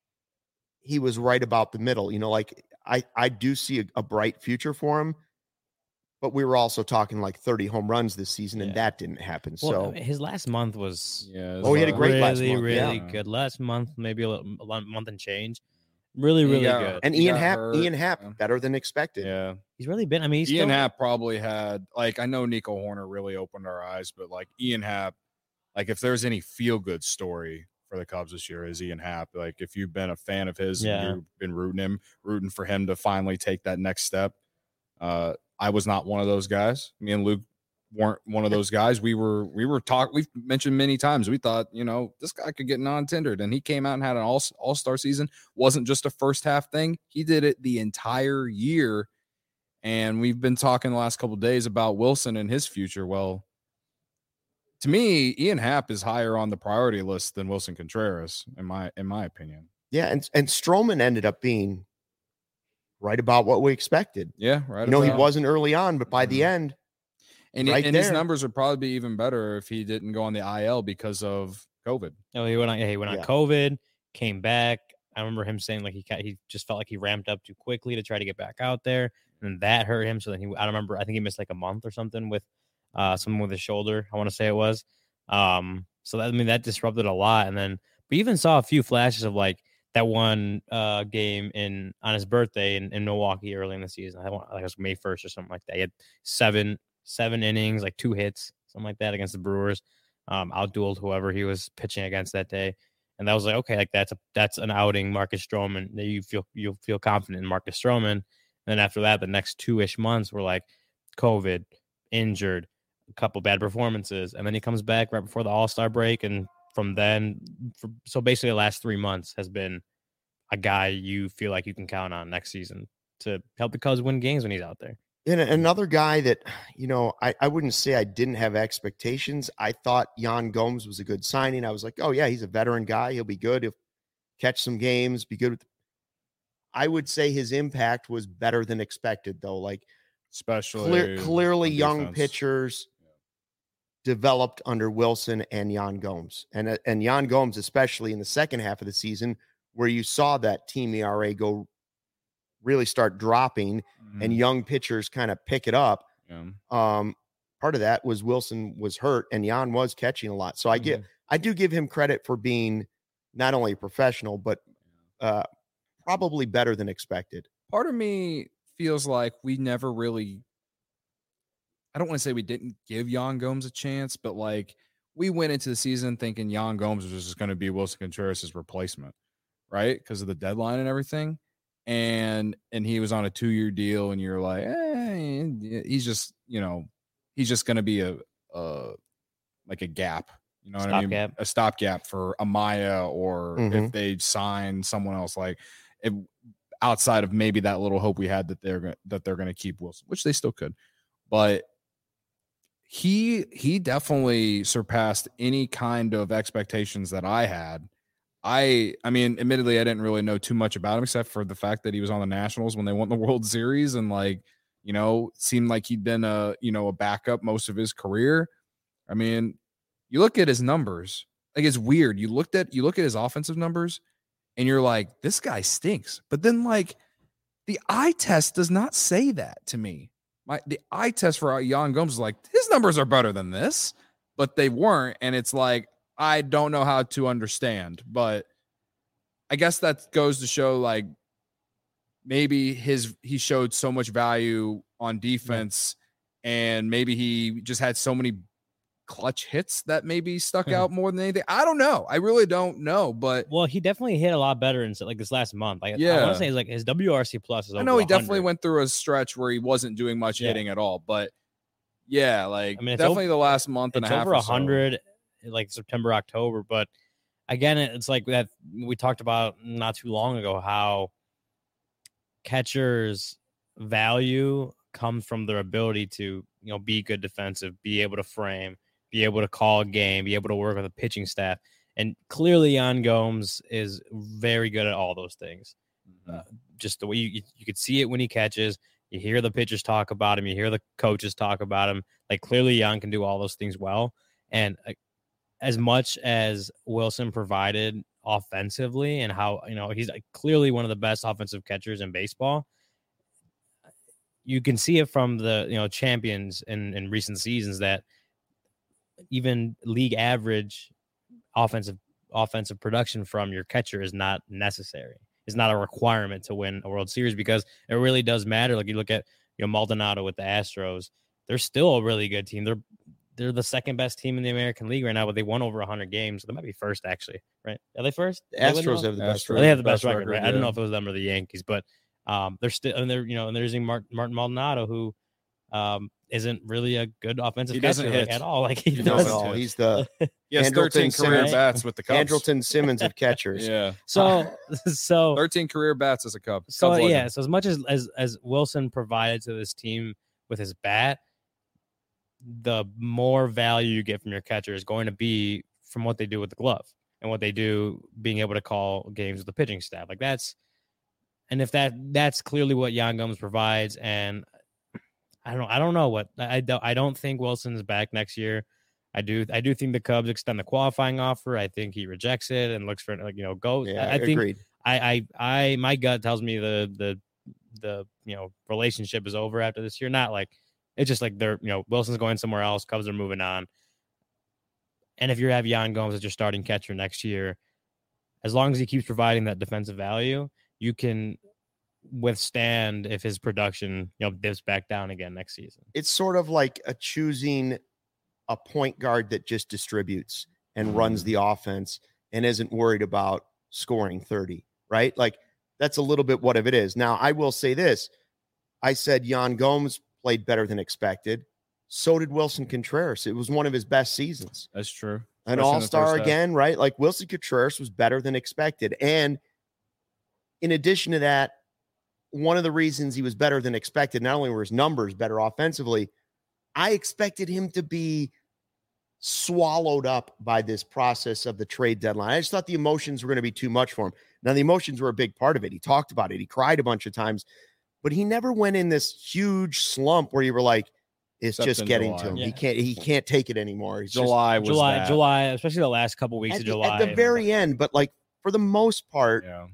S1: he was right about the middle. You know, like I I do see a, a bright future for him, but we were also talking like thirty home runs this season, and
S2: Yeah.
S1: that didn't happen.
S2: well,
S1: so
S2: I mean, his last month was
S3: Yeah.
S1: Oh, he had a
S3: so-
S1: great
S2: really,
S1: last month,
S2: really
S3: yeah.
S2: good. Last month, maybe a, little, a month and change. Really,
S3: He
S2: really
S3: got-
S2: good.
S1: and
S3: He
S1: Ian
S3: got
S1: Happ,
S3: hurt,
S1: Ian Happ,
S3: yeah.
S1: better than expected.
S3: Yeah.
S2: He's really been. I mean, he's
S3: Ian
S2: still,
S3: Happ probably had, like, I know Nico Horner really opened our eyes, but like Ian Happ, like if there's any feel good story for the Cubs this year is Ian Happ. Like if you've been a fan of his,
S2: Yeah.
S3: and you've been rooting him, rooting for him to finally take that next step. Uh, I was not one of those guys. Me and Luke weren't one of those guys. We were, we were talk. We've mentioned many times. We thought, you know, this guy could get non-tendered, and he came out and had an all all star season. Wasn't just a first half thing. He did it the entire year. And we've been talking the last couple of days about Wilson and his future. Well, to me, Ian Happ is higher on the priority list than Wilson Contreras, in my in my opinion.
S1: Yeah, and and Stroman ended up being right about what we expected.
S3: Yeah, right.
S1: You know, he
S3: about-
S1: wasn't early on, but by the
S3: Mhm.
S1: end,
S3: and,
S1: right
S3: and his
S1: there.
S3: numbers would probably be even better if he didn't go on the I L because of COVID.
S2: No, he went on. Yeah, he went on
S1: Yeah.
S2: COVID, came back. I remember him saying like he ca- he just felt like he ramped up too quickly to try to get back out there, and that hurt him. So then he, I don't remember. I think he missed like a month or something with uh someone with his shoulder. I want to say it was. Um, so that, I mean that disrupted a lot. And then we even saw a few flashes of like that one uh game in on his birthday in, in Milwaukee early in the season. I want like it was May first or something like that. He had seven seven innings, like two hits, something like that against the Brewers. Um, outdueled whoever he was pitching against that day. And that was like, okay, like that's a that's an outing, Marcus Stroman. You feel you'll feel confident in Marcus Stroman. And then after that, the next two ish months were like COVID, injured, a couple bad performances, and then he comes back right before the All Star break. And from then, for, so basically, the last three months has been a guy you feel like you can count on next season to help the Cubs win games when he's out there.
S1: and another guy that, you know, I, I wouldn't say I didn't have expectations. I thought Yan Gomes was a good signing. I was like, oh yeah, he's a veteran guy. He'll be good. He'll catch some games, be good with. I would say his impact was better than expected, though. Like
S3: Especially
S1: clear, clearly
S3: on
S1: young
S3: defense.
S1: pitchers developed under Wilson and Yan Gomes. And, uh, and Yan Gomes, especially in the second half of the season, where you saw that team E R A go really start dropping and
S3: Mhm.
S1: young pitchers kind of pick it up.
S3: Yeah.
S1: Um, part of that was Wilson was hurt and Yan was catching a lot. So I get, I do give him credit for being not only a professional, but uh, probably better than expected.
S3: Part of me feels like we never really, I don't want to say we didn't give Yan Gomes a chance, but like we went into the season thinking Yan Gomes was just going to be Wilson Contreras' replacement, right? Because of the deadline and everything. And and he was on a two-year deal, and you're like, eh, he's just, you know, he's just going to be a, a like a gap, you know what I mean?
S2: Stopgap.
S3: A stopgap for Amaya, or
S1: Mhm.
S3: if they sign someone else, like if, outside of maybe that little hope we had that they're gonna, that they're going to keep Wilson, which they still could, but he he definitely surpassed any kind of expectations that I had. I I mean, admittedly, I didn't really know too much about him except for the fact that he was on the Nationals when they won the World Series, and like, you know, seemed like he'd been a, you know, a backup most of his career. I mean, you look at his numbers, like it's weird. You looked at you look at his offensive numbers, and you're like, this guy stinks. But then like the eye test does not say that to me. My the eye test for Yan Gomes is like, his numbers are better than this, but they weren't. And it's like, I don't know how to understand, but I guess that goes to show like maybe his he showed so much value on defense, yeah. and maybe he just had so many clutch hits that maybe stuck out more than anything. I don't know. I really don't know, but
S2: well, he definitely hit a lot better in like this last month. Like,
S3: yeah.
S2: I want to say like his W R C plus is over
S3: I know he
S2: one hundred.
S3: definitely went through a stretch where he wasn't doing much
S2: yeah.
S3: hitting at all, but yeah, like
S2: I mean, it's
S3: definitely
S2: over,
S3: the last month and a
S2: it's
S3: half
S2: over
S3: or
S2: one hundred,
S3: so.
S2: like September, October. But again, it's like that we talked about not too long ago, how catchers' value comes from their ability to, you know, be good defensive, be able to frame, be able to call a game, be able to work with a pitching staff. And clearly Yan Gomes is very good at all those things. Mm-hmm. Uh, just the way you, you, you could see it when he catches, you hear the pitchers talk about him, you hear the coaches talk about him. Like clearly Yan can do all those things well. And uh, as much as Wilson provided offensively and how, you know, he's like clearly one of the best offensive catchers in baseball, you can see it from the, you know, champions in, in recent seasons that even league average offensive offensive production from your catcher is not necessary. It's not a requirement to win a World Series, because it really does matter. Like you look at, you know, Maldonado with the Astros, they're still a really good team. They're they're the second best team in the American League right now, but they won over one hundred games. So they might be first, actually, right? Are they first?
S1: The Astros have the best
S2: record. They have the best, best record, record, right? Yeah. I don't know if it was them or the Yankees, but um, they're still, and they're, you know, and they're using Martin, Martin Maldonado, who um, isn't really a good offensive
S3: he
S2: catcher
S3: doesn't hit
S2: like, at all. Like he
S1: no,
S2: doesn't.
S1: at all. He's the
S3: he has thirteen career
S1: Simmons,
S3: bats with the Cubs.
S1: Andrelton Simmons of catchers.
S3: yeah.
S2: So so
S3: thirteen career bats as a Cub.
S2: So
S3: Cubs
S2: yeah.
S3: legend.
S2: So as much as, as as Wilson provided to this team with his bat, the more value you get from your catcher is going to be from what they do with the glove and what they do being able to call games with the pitching staff. Like that's, and if that that's clearly what Yan Gomes provides. And I don't I don't know what I don't I don't think Wilson's back next year. I do I do think the Cubs extend the qualifying offer. I think he rejects it and looks for, like, you know, go.
S1: Yeah,
S2: I, I think
S1: agreed.
S2: I, I I my gut tells me the the the you know relationship is over after this year. Not like it's just like they're, you know, Wilson's going somewhere else. Cubs are moving on. And if you have Yan Gomes as your starting catcher next year, as long as he keeps providing that defensive value, you can withstand if his production, you know, dips back down again next season.
S1: It's sort of like a choosing a point guard that just distributes and runs the offense and isn't worried about scoring thirty, right? Like that's a little bit what it is. Now, I will say this. I said Yan Gomes played better than expected. So did Wilson Contreras. It was one of his best seasons.
S3: That's true.
S1: An all-star again, right? Like Wilson Contreras was better than expected. And in addition to that, one of the reasons he was better than expected, not only were his numbers better offensively, I expected him to be swallowed up by this process of the trade deadline. I just thought the emotions were going to be too much for him. Now, the emotions were a big part of it. He talked about it. He cried a bunch of times, but he never went in this huge slump where you were like, it's
S3: Except
S1: just getting
S3: July.
S1: to him.
S2: Yeah.
S1: He can't, he can't take it anymore. He's
S3: July
S1: just,
S3: was
S2: July,
S3: that.
S2: July, especially the last couple weeks
S1: at
S2: of
S1: the,
S2: July.
S1: at the very end, but like for the most part,
S3: Yeah.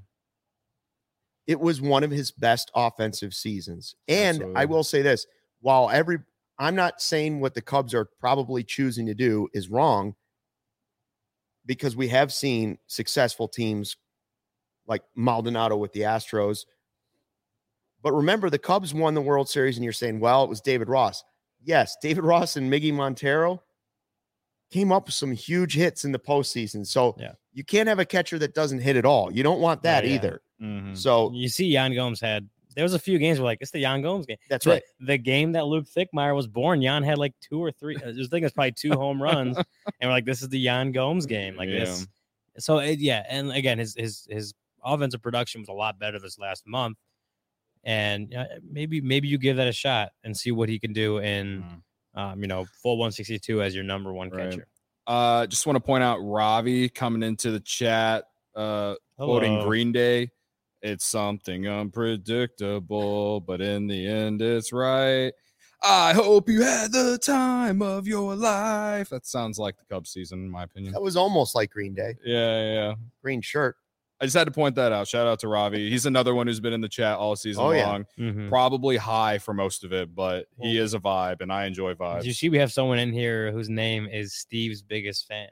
S1: it was one of his best offensive seasons. And
S3: Absolutely.
S1: I will say this, while every, I'm not saying what the Cubs are probably choosing to do is wrong, because we have seen successful teams like Maldonado with the Astros But remember, the Cubs won the World Series, and you're saying, well, it was David Ross. Yes, David Ross and Miggy Montero came up with some huge hits in the postseason. So
S2: Yeah.
S1: you can't have a catcher that doesn't hit at all. You don't want that
S2: Yeah, yeah.
S1: either.
S3: Mhm.
S1: So
S2: You see, Yan Gomes had. There was a few games where like it's the Yan Gomes game.
S1: that's
S2: the,
S1: right.
S2: The game that Luke Thickmeyer was born, Yan had like two or three. I was thinking it's probably two home runs, and we're like, this is the Yan Gomes game. Like
S3: Yeah.
S2: this. So it, yeah, and again, his his his offensive production was a lot better this last month, and uh, maybe maybe you give that a shot and see what he can do in,
S3: Mhm.
S2: um, you know, full one sixty-two as your number one
S3: Right.
S2: catcher.
S3: Uh, just want to point out Ravi coming into the chat, uh, quoting
S2: Hello.
S3: Green Day. It's something unpredictable, but in the end, it's right. I hope you had the time of your life. That sounds like the Cubs season, in my opinion.
S1: That was almost like Green Day.
S3: Yeah, yeah, yeah.
S1: Green shirt.
S3: I just had to point that out. Shout out to Ravi. He's another one who's been in the chat all season
S1: Oh, yeah.
S3: long.
S2: Mhm.
S3: Probably high for most of it, but he is a vibe, and I enjoy vibes.
S2: Did you see we have someone in here whose name is Steve's biggest fan?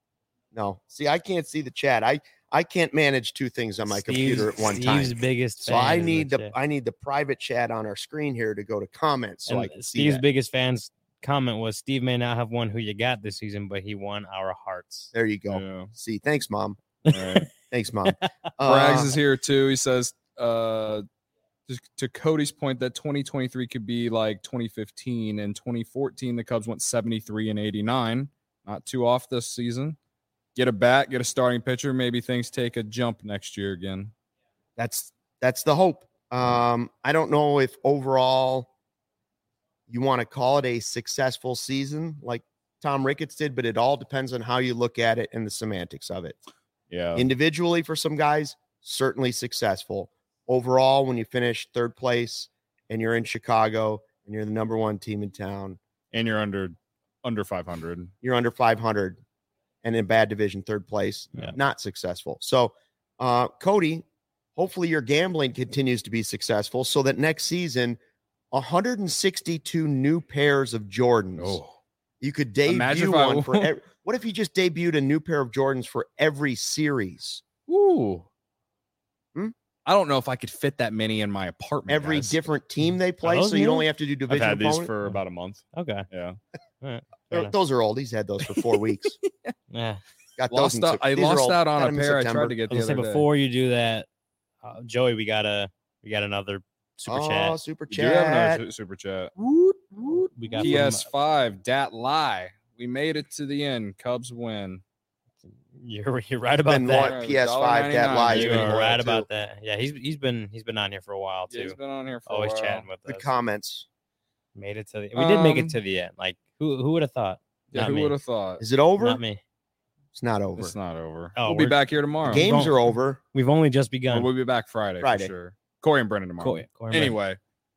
S1: No. See, I can't see the chat. I, I can't manage two things on my
S2: Steve's-
S1: computer at one
S2: Steve's
S1: time.
S2: biggest
S1: So
S2: fan.
S1: I
S2: is
S1: need the
S2: chat.
S1: I need the private chat on our screen here to go to comments so
S2: And
S1: I can see
S2: Steve's
S1: that.
S2: biggest fans comment was Steve may not have won who you got this season, but he won our hearts.
S1: There you go.
S3: Yeah.
S1: See, thanks, Mom.
S3: All right.
S1: Thanks, Mom.
S3: Braggs
S1: Uh,
S3: is here too. He says, uh, just to Cody's point, that twenty twenty-three could be like twenty fifteen. And twenty fourteen, the Cubs went seventy-three and eighty-nine. Not too off this season. Get a bat, get a starting pitcher. Maybe things take a jump next year again.
S1: that's that's the hope. Um, I don't know if overall you want to call it a successful season like Tom Ricketts did, but it all depends on how you look at it and the semantics of it.
S3: Yeah.
S1: Individually, for some guys, certainly successful. Overall, when you finish third place and you're in Chicago and you're the number one team in town,
S3: and you're under under five hundred.
S1: you're under five hundred and in bad division, third place,
S2: Yeah.
S1: not successful. So, uh, Cody, hopefully your gambling continues to be successful so that next season, one hundred sixty-two new pairs of Jordans.
S3: Oh,
S1: You could
S3: Imagine
S1: debut
S3: if I-
S1: one for ev- what if you just debuted a new pair of Jordans for every series?
S3: ooh.
S1: Hmm?
S3: I don't know if I could fit that many in my apartment.
S1: Every
S3: guys.
S1: different team they play,
S2: those
S1: so you
S2: new?
S1: only have to do
S3: I've
S1: division
S3: had these
S1: opponent?
S3: for about a month.
S2: Okay.
S3: Yeah.
S2: Fair
S1: They're-
S2: enough.
S1: Those are old. He's had those for four weeks.
S2: Yeah.
S1: Got those.
S3: Lost
S1: in
S3: out,
S1: Sep-
S3: I
S1: these are
S3: lost
S1: old.
S3: out on
S1: Got
S3: a
S1: them in
S3: pair. I
S1: September.
S3: tried to get
S2: I
S3: the
S2: was
S3: other
S2: gonna say
S3: day.
S2: before you do that, uh, Joey, we got a we got another super
S1: oh,
S2: chat.
S1: super
S3: We do have another
S1: chat.
S3: su- super chat.
S1: Woot, woot.
S2: We got
S3: P S
S2: from,
S3: five, dat lie. We made it to the end. Cubs win.
S2: you're you're right about
S1: Been
S2: that.
S1: what? P S five, that
S3: one dollar ninety-nine,
S1: lies.
S2: You
S3: baby.
S1: been
S2: are
S1: loyal,
S2: right
S1: too.
S2: about that. Yeah, he's he's been he's been on here for a while
S3: Yeah,
S2: too.
S3: he's been on here for
S2: Always
S3: a while.
S2: chatting with
S1: Good
S2: us.
S1: comments.
S2: Made it to the. We did make
S3: Um,
S2: it to the end. Like who who would have thought?
S3: Yeah,
S2: Not
S3: who
S2: me.
S3: would have thought?
S1: Is it over?
S2: Not me.
S1: It's not over.
S3: It's not over.
S2: Oh,
S3: we'll be
S2: we're-
S3: back here tomorrow.
S1: Games
S2: Don't-
S1: are over.
S2: We've only just
S3: Well,
S2: begun.
S3: we'll be back Friday,
S1: Friday.
S3: for sure. Corey and Brennan tomorrow.
S2: Cool. Cool.
S3: Anyway,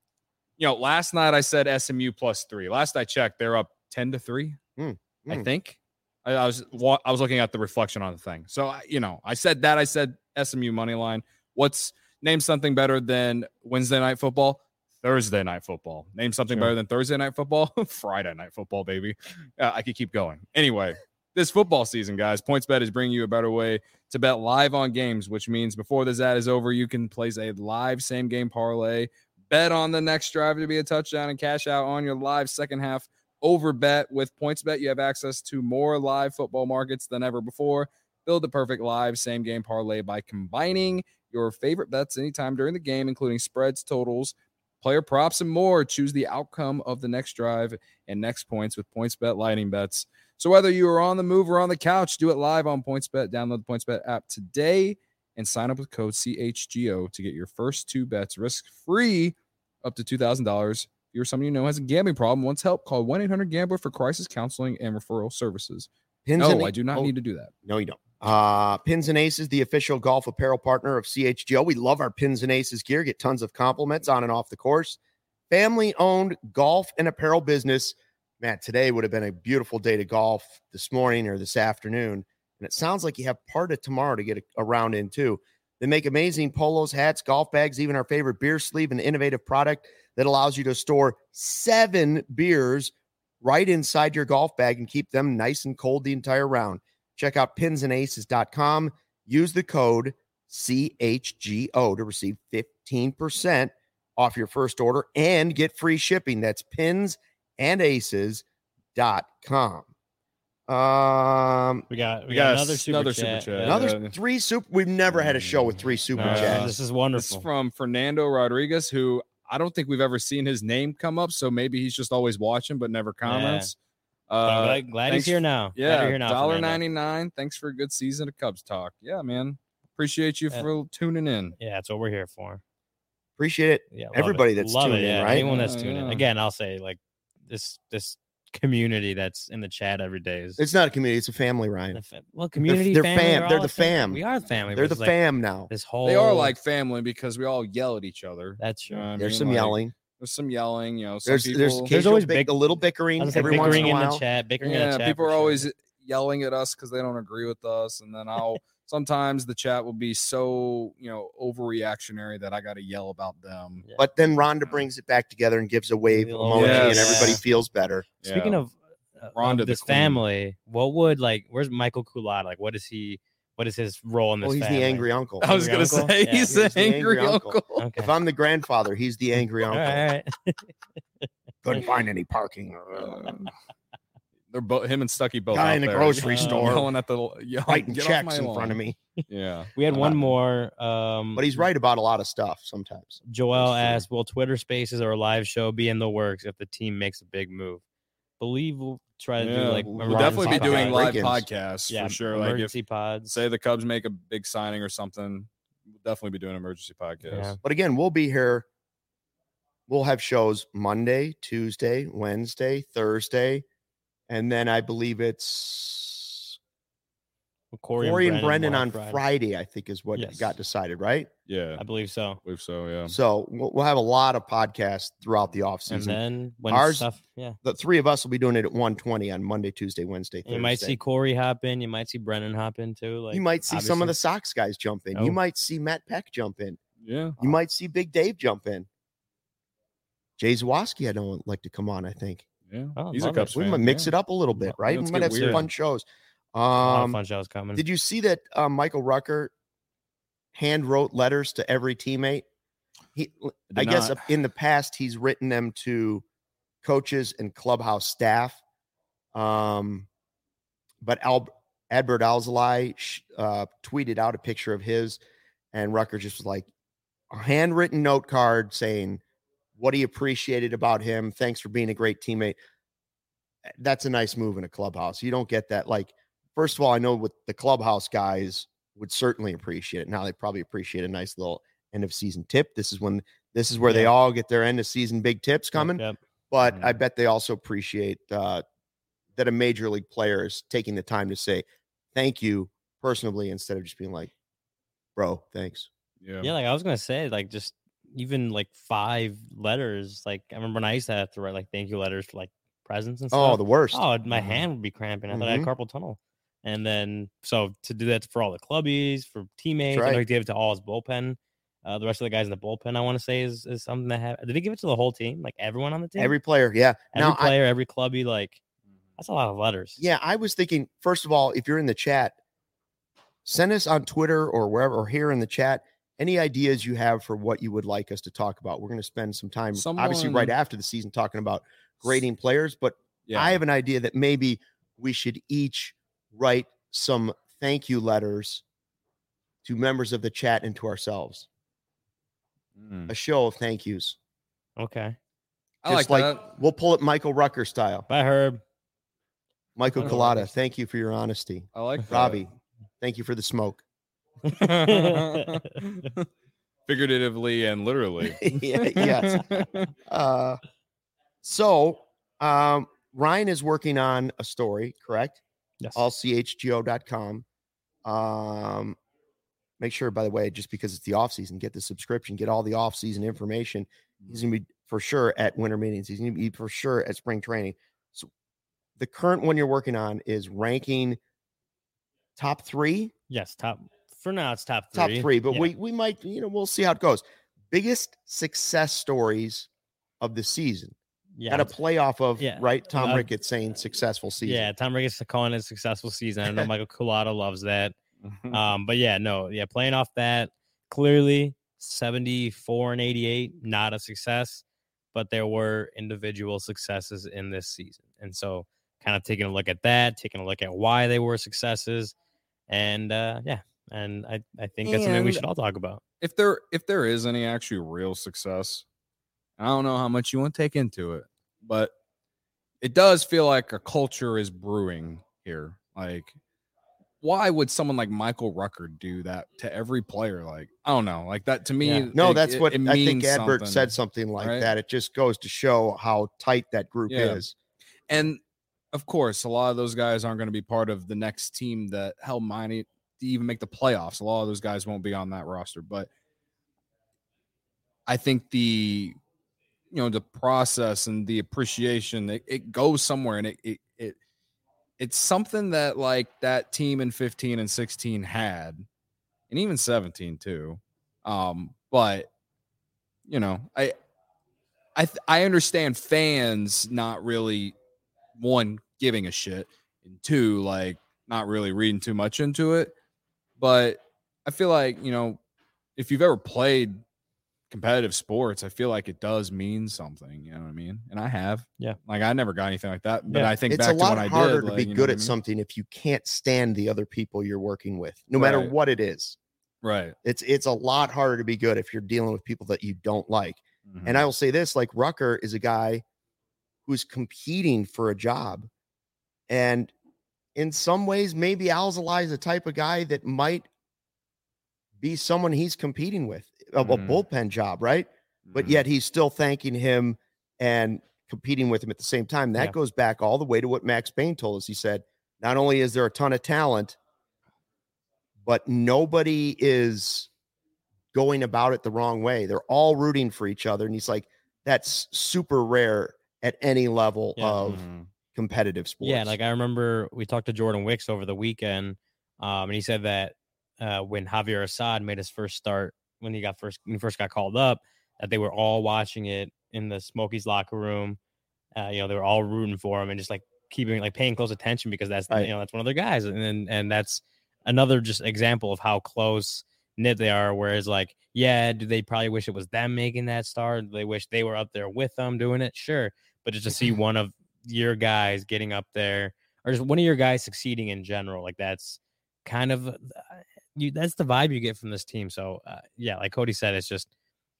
S3: you know, last night I said S M U plus three. Last I checked, they're up ten to three.
S1: Mm,
S3: I
S1: mm.
S3: think. I, I was wa- I was looking at the reflection on the thing. So I- you know, I said that. I said S M U money line. What's name something better than Wednesday night football? Thursday night football. Name something
S2: Sure.
S3: better than Thursday night football? Friday night football, baby. Uh, I could keep going. Anyway, this football season, guys, PointsBet is bringing you a better way to bet live on games, which means before this ad is over, you can place a live same game parlay, bet on the next drive to be a touchdown, and cash out on your live second half over bet. With PointsBet, you have access to more live football markets than ever before. Build the perfect live same game parlay by combining your favorite bets anytime during the game, including spreads, totals, player props, and more. Choose the outcome of the next drive and next points with PointsBet Lightning Bets. So whether you are on the move or on the couch, do it live on PointsBet. Download the PointsBet app today and sign up with code C H G O to get your first two bets risk-free up to two thousand dollars. If you're someone you know has a gambling problem, wants help, call one eight hundred gambler for crisis counseling and referral services.
S1: Pins
S3: No,
S1: and
S3: I do not
S1: oh,
S3: need to do that.
S1: No, you don't. Uh, Pins and Aces, the official golf apparel partner of C H G O. We love our Pins and Aces gear. Get tons of compliments on and off the course. Family-owned golf and apparel business. Man, today would have been a beautiful day to golf this morning or this afternoon. And it sounds like you have part of tomorrow to get a, a round in, too. They make amazing polos, hats, golf bags, even our favorite beer sleeve, an innovative product that allows you to store seven beers right inside your golf bag and keep them nice and cold the entire round. Check out pins and aces dot com. Use the code C H G O to receive fifteen percent off your first order and get free shipping. That's pins and aces dot com. Um,
S2: We got we,
S3: We
S2: got,
S3: got
S2: another
S3: s-
S2: super
S3: another
S2: chat.
S3: super chat.
S2: Yeah.
S1: another
S3: Yeah.
S1: three super. We've never had a show with three super
S2: No,
S1: chats.
S2: this is
S3: This
S2: wonderful.
S3: is from Fernando Rodriguez, who I don't think we've ever seen his name come up. So maybe he's just always watching but never comments.
S2: But I'm
S3: Uh,
S2: glad, glad he's
S3: thanks-
S2: here now. Glad
S3: Yeah,
S2: you're here now,
S3: dollar
S2: Fernando.
S3: ninety nine. Thanks for a good season of Cubs talk. Yeah, man. Appreciate you
S2: Yeah.
S3: for tuning in.
S2: Yeah, that's what we're here for.
S1: Appreciate it.
S2: Yeah, love
S1: Everybody
S2: it.
S1: that's
S2: love
S1: tuning
S2: it,
S1: in,
S2: yeah.
S1: right?
S2: Anyone that's
S3: Yeah,
S2: tuning in.
S3: yeah.
S2: Again, I'll say like this this community that's in the chat every day is
S1: It's not a community; it's a family, Ryan.
S2: the fa- well community.
S1: they're
S2: family,
S1: fam-
S2: we're
S1: they're
S2: all
S1: the
S2: a family.
S1: fam.
S2: We are the family.
S1: They're
S2: but
S1: the
S2: it's like
S1: fam now.
S2: This whole
S3: They are like family because we all yell at each other.
S2: that's
S3: You know
S2: true.
S3: what I
S1: There's
S3: mean?
S1: some
S3: Like,
S1: yelling.
S3: There's some yelling. You know, some
S1: There's
S3: people,
S1: there's
S2: There's
S1: occasional
S2: always
S1: big,
S2: big-
S1: a little
S2: I
S1: bickering
S2: was like
S1: every once in
S2: bickering
S1: a
S2: in
S1: while.
S2: the chat, bickering in
S3: yeah,
S2: the chat.
S3: people
S2: for
S3: are
S2: sure.
S3: always yelling at us because they don't agree with us, and then I'll sometimes the chat will be so you know overreactionary that I got to yell about them.
S2: Yeah.
S1: But then Rhonda brings it back together and gives a wave
S2: Yes.
S1: emoji, and everybody
S3: Yes.
S1: feels better.
S2: Speaking
S3: Yeah.
S2: of, uh,
S3: Rhonda
S2: of
S3: the
S2: this
S3: queen.
S2: family, what would like? Where's Michael Culata? Like, what is he? What is his role in this?
S1: Well, he's
S2: family?
S1: the angry uncle.
S3: I was
S2: Angry
S3: gonna
S2: uncle?
S3: say
S2: Yeah.
S3: he's,
S1: He's
S3: the angry, uncle.
S2: Okay.
S1: If I'm the grandfather, he's the angry
S2: all
S1: uncle.
S2: right, all right.
S1: Couldn't find any parking.
S3: Uh, They're both him and Stucky both
S1: Guy
S3: out
S1: in the
S3: there,
S1: grocery
S2: Uh,
S1: store
S3: yelling at the yelling,
S1: writing
S3: "Get off
S1: checks
S3: my
S1: in
S3: lawn."
S1: front of me.
S3: Yeah,
S2: We had
S3: Uh,
S2: one more. Um,
S1: But he's right about a lot of stuff sometimes.
S2: Joel
S1: That's true.
S2: asked, "Will Twitter Spaces or a live show be in the works if the team makes a big move?" Believe we'll try to
S3: Yeah,
S2: do like
S1: we'll
S3: we'll definitely be
S1: emergency
S3: doing
S1: podcast.
S3: live
S1: Break-ins.
S3: podcasts
S2: yeah,
S3: for sure. Like if
S2: emergency pods.
S3: say the Cubs make a big signing or something, we'll definitely be doing emergency podcasts.
S2: Yeah.
S1: But again, we'll be here. We'll have shows Monday, Tuesday, Wednesday, Thursday, and then I believe it's
S2: Corey,
S1: Corey and
S2: Brennan
S1: Brendan on
S2: will have
S1: Friday. I think is what
S2: Yes.
S1: got decided, right?
S3: Yeah,
S2: I believe so.
S3: I believe so. Yeah.
S1: So we'll, we'll have a lot of podcasts throughout the
S2: And
S1: offseason.
S2: then when
S1: Ours-
S2: stuff, yeah,
S1: The three of us will be doing it at one twenty on Monday, Tuesday, Wednesday, Thursday.
S2: you might see Corey hop in. You might see Brennan hop in too. Like
S1: you might see some of the
S2: obviously.
S1: Sox guys jump in.
S2: Oh.
S1: You might see Matt Peck jump in.
S3: Yeah.
S1: You might see Big Dave jump in. Jay Zawoski, I don't like to come on, I think.
S3: Yeah.
S2: Oh,
S3: He's a
S2: love it.
S3: Cubs
S1: We
S3: fan.
S1: might mix
S3: yeah.
S1: it up a little bit,
S3: Yeah,
S1: right? We
S3: let's
S1: might
S3: get
S1: have some
S3: weird.
S1: fun shows.
S2: A lot of
S1: Um,
S2: fun shows coming.
S1: did you see that uh, Michael Rucker hand wrote letters to every teammate? He, I,
S3: did
S1: guess
S3: not.
S1: in the past he's written them to coaches and clubhouse staff. Um, but Al, Adbert Alzolay sh- uh, tweeted out a picture of his, and Rucker just was like a handwritten note card saying what he appreciated about him. Thanks for being a great teammate. That's a nice move in a clubhouse. You don't get that. Like, first of all, I know what the clubhouse guys would certainly appreciate it. Now they probably appreciate a nice little end of season tip. This is when this is where they
S2: Yeah.
S1: all get their end of season big tips
S2: Yep,
S1: coming.
S2: yep.
S1: But
S3: Mhm.
S1: I bet they also appreciate uh, that a major league player is taking the time to say thank you personally instead of just being like, bro, thanks.
S3: Yeah.
S2: Yeah, like I was gonna say, like just even like five letters. Like I remember when I used to have to write like thank you letters for like presents and stuff.
S1: Oh, the worst.
S2: Oh, my
S3: Mhm.
S2: hand would be cramping. I thought I had
S1: Mhm.
S2: carpal tunnel. And then so to do that for all the clubbies, for teammates, I know
S1: right.
S2: he gave it to all his bullpen. Uh, the rest of the guys in the bullpen, I want to say, is is something that have. Did he give it to the whole team? Like everyone on the team,
S1: Every player, yeah.
S2: every
S1: now, I,
S2: player, every clubby. Like that's a lot of letters.
S1: yeah, I was thinking, first of all, if you're in the chat, send us on Twitter or wherever, or here in the chat, any ideas you have for what you would like us to talk about. We're going to spend some time, obviously, right
S3: Someone-
S1: after the season, talking about grading players. But
S3: Yeah.
S1: I have an idea that maybe we should each write some thank you letters to members of the chat and to ourselves.
S3: Mm.
S1: A show of thank yous.
S2: Okay.
S3: I like
S1: Just like
S3: that.
S1: we'll pull it Michael Rucker style.
S2: Bye, Herb.
S1: Michael
S3: Michael
S1: Collada,
S3: Rucker.
S1: thank you for your honesty.
S3: I like that.
S1: Robbie, thank you for the smoke.
S3: Figuratively and literally.
S1: yeah, yes. Uh, so um, Ryan is working on a story, correct?
S2: Yes.
S1: all c h g o dot com. Um, make sure, by the way, just because it's the off season, get the subscription, get all the off season information. He's gonna be for sure at winter meetings. He's gonna be for sure at spring training. So the current one you're working on is ranking top three,
S2: Yes. Top for now. It's top
S1: top
S2: three.
S1: three, but
S2: Yeah.
S1: we we might, you know, we'll see how it goes. Biggest success stories of the season.
S2: yeah.
S1: Got to play off of,
S2: Yeah.
S1: right? Tom
S2: Uh,
S1: Ricketts saying successful season.
S2: Yeah, Tom Ricketts calling it a successful season. I know Michael Culata loves that. Um, but yeah, no, yeah, playing off that clearly seventy-four and eighty-eight, not a success, but there were individual successes in this season. And so kind of taking a look at that, taking a look at why they were successes. And uh, yeah, and I, I think that's something we
S3: And-
S2: should all talk about.
S3: If there if there is any actually real success, I don't know how much you want to take into it, but it does feel like a culture is brewing here. Like, why would someone like Michael Rucker do that to every player? Like, I don't know. Like that to me.
S2: Yeah.
S1: No,
S3: it-
S1: that's
S3: it-
S1: what
S3: it
S1: I think
S3: means
S1: Adbert
S3: something.
S1: said something like
S3: right?
S1: that. It just goes to show how tight that group
S3: Yeah.
S1: is.
S3: And of course, a lot of those guys aren't going to be part of the next team that held Miami to even make the playoffs. A lot of those guys won't be on that roster, but I think the you know the process and the appreciation it, it goes somewhere, and it, it it it's something that like that team in fifteen and sixteen had, and even seventeen too. Um, but you know, I I th- I understand fans not really one giving a shit, and two like not really reading too much into it. But I feel like you know if you've ever played competitive sports, I feel like it does mean something. You know what I mean? And I have.
S2: Yeah.
S3: Like I never got anything like that, but
S2: Yeah.
S3: I think
S1: It's
S3: back
S1: a lot
S3: to when
S1: harder
S3: I did.
S1: to
S3: like,
S1: be
S3: you know
S1: good
S3: what I
S1: at
S3: mean?
S1: something if you can't stand the other people you're working with, no matter
S3: Right.
S1: what it is.
S3: Right.
S1: It's it's a lot harder to be good if you're dealing with people that you don't like.
S3: Mhm.
S1: And I will say this, like Rucker is a guy who's competing for a job. And in some ways, maybe Alzolay is the type of guy that might be someone he's competing with, a, a
S3: Mhm.
S1: bullpen job, right? But
S3: Mhm.
S1: yet he's still thanking him and competing with him at the same time. That
S2: Yeah.
S1: goes back all the way to what Max Payne told us. He said, not only is there a ton of talent, but nobody is going about it the wrong way. They're all rooting for each other. And he's like, that's super rare at any level
S2: Yeah.
S1: of
S3: Mhm.
S1: competitive sports.
S2: Yeah, like I remember we talked to Jordan Wicks over the weekend, um, and he said that uh, when Javier Assad made his first start, when he got first when he first got called up, that they were all watching it in the Smokies locker room. Uh, you know, they were all rooting for him and just like keeping like paying close attention because that's
S1: Right.
S2: you know that's one of their guys, and and, and that's another just example of how close knit they are. Whereas like, yeah, do they probably wish it was them making that start? Do they wish they were up there with them doing it? Sure, but just to see one of your guys getting up there, or just one of your guys succeeding in general, like that's kind of uh, you. That's the vibe you get from this team. So uh, yeah, like Cody said, it's just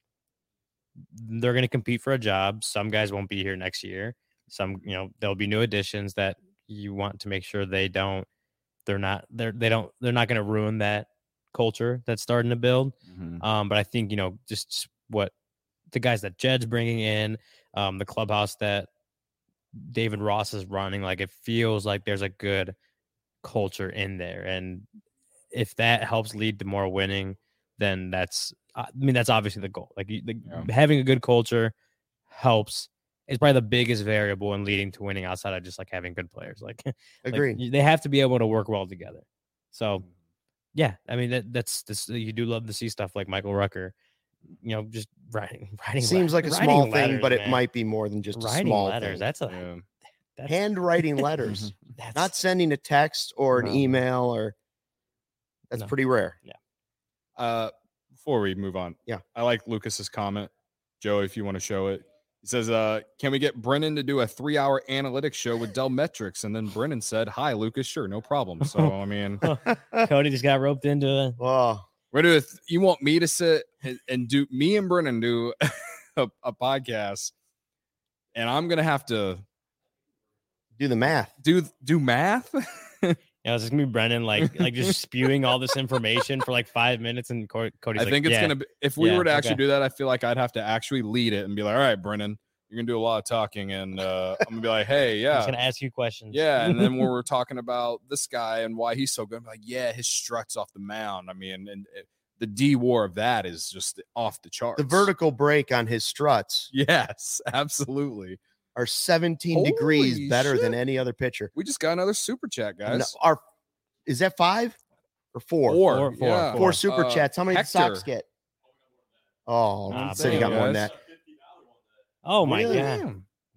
S2: they're going to compete for a job. Some guys won't be here next year. Some, you know, there'll be new additions that you want to make sure they don't. They're not. They're they don't. They're not going to ruin that culture that's starting to build.
S3: Mhm.
S2: Um, but I think you know just what the guys that Jed's bringing in, um, the clubhouse that David Ross is running, like it feels like there's a good culture in there, and if that helps lead to more winning, then that's I mean that's obviously the goal. Like you, the,
S3: Yeah.
S2: having a good culture helps. It's probably the biggest variable in leading to winning outside of just like having good players. Like, like,
S1: Agreed.
S2: you- they have to be able to work well together. So yeah, I mean that that's this. You do love to see stuff like Michael Rucker, you know, just writing writing.
S1: Seems
S2: le-
S1: like a
S2: writing
S1: small thing,
S2: letters,
S1: but it
S2: man.
S1: might be more than just a
S2: writing
S1: small
S2: letters.
S1: thing.
S2: That's a
S3: Yeah.
S2: that's,
S1: Handwriting letters,
S2: that's
S1: not sending a text or an
S2: No.
S1: email, or that's
S2: No.
S1: pretty rare.
S3: Uh, before we move on,
S1: Yeah.
S3: I like Lucas's comment. Joe, if you want to show it, he says, "Uh, can we get Brennan to do a three-hour analytics show with Dell Metrics?" And then Brennan said, "Hi, Lucas. Sure, no problem." So I mean,
S2: Cody just got roped into it.
S1: Oh,
S3: we're doing. You want me to sit and, and do me and Brennan do a, a podcast, and I'm gonna have to
S1: do the math.
S3: do do math.
S2: Yeah, it's just gonna be Brennan like like just spewing all this information for like five minutes, and Co- Cody's
S3: I
S2: like,
S3: think it's
S2: yeah.
S3: gonna be if we
S2: Yeah,
S3: were to actually
S2: okay.
S3: do that, I feel like I'd have to actually lead it and be like, all right, Brennan, you're gonna do a lot of talking, and uh, I'm gonna be like, hey,
S2: I'm
S3: yeah,
S2: just gonna ask you questions.
S3: yeah, and then when we're talking about this guy and why he's so good, I'm like, yeah, his struts off the mound. I mean, and it, the D war of that is just off the charts.
S1: The vertical break on his struts
S3: yes, absolutely.
S1: are seventeen
S3: Holy
S1: degrees better than
S3: shit.
S1: any other pitcher.
S3: We just got another super chat, guys.
S1: No, our, is that five or four?
S3: Four,
S2: Four, four,
S3: yeah.
S1: Four super
S3: Uh,
S1: chats. How many did the Sox
S3: Hector.
S1: get? Oh,
S2: Nah,
S1: said he
S2: damn,
S1: got more than
S3: guys.
S1: that.
S2: Oh my
S1: Really?
S2: god.
S3: Damn.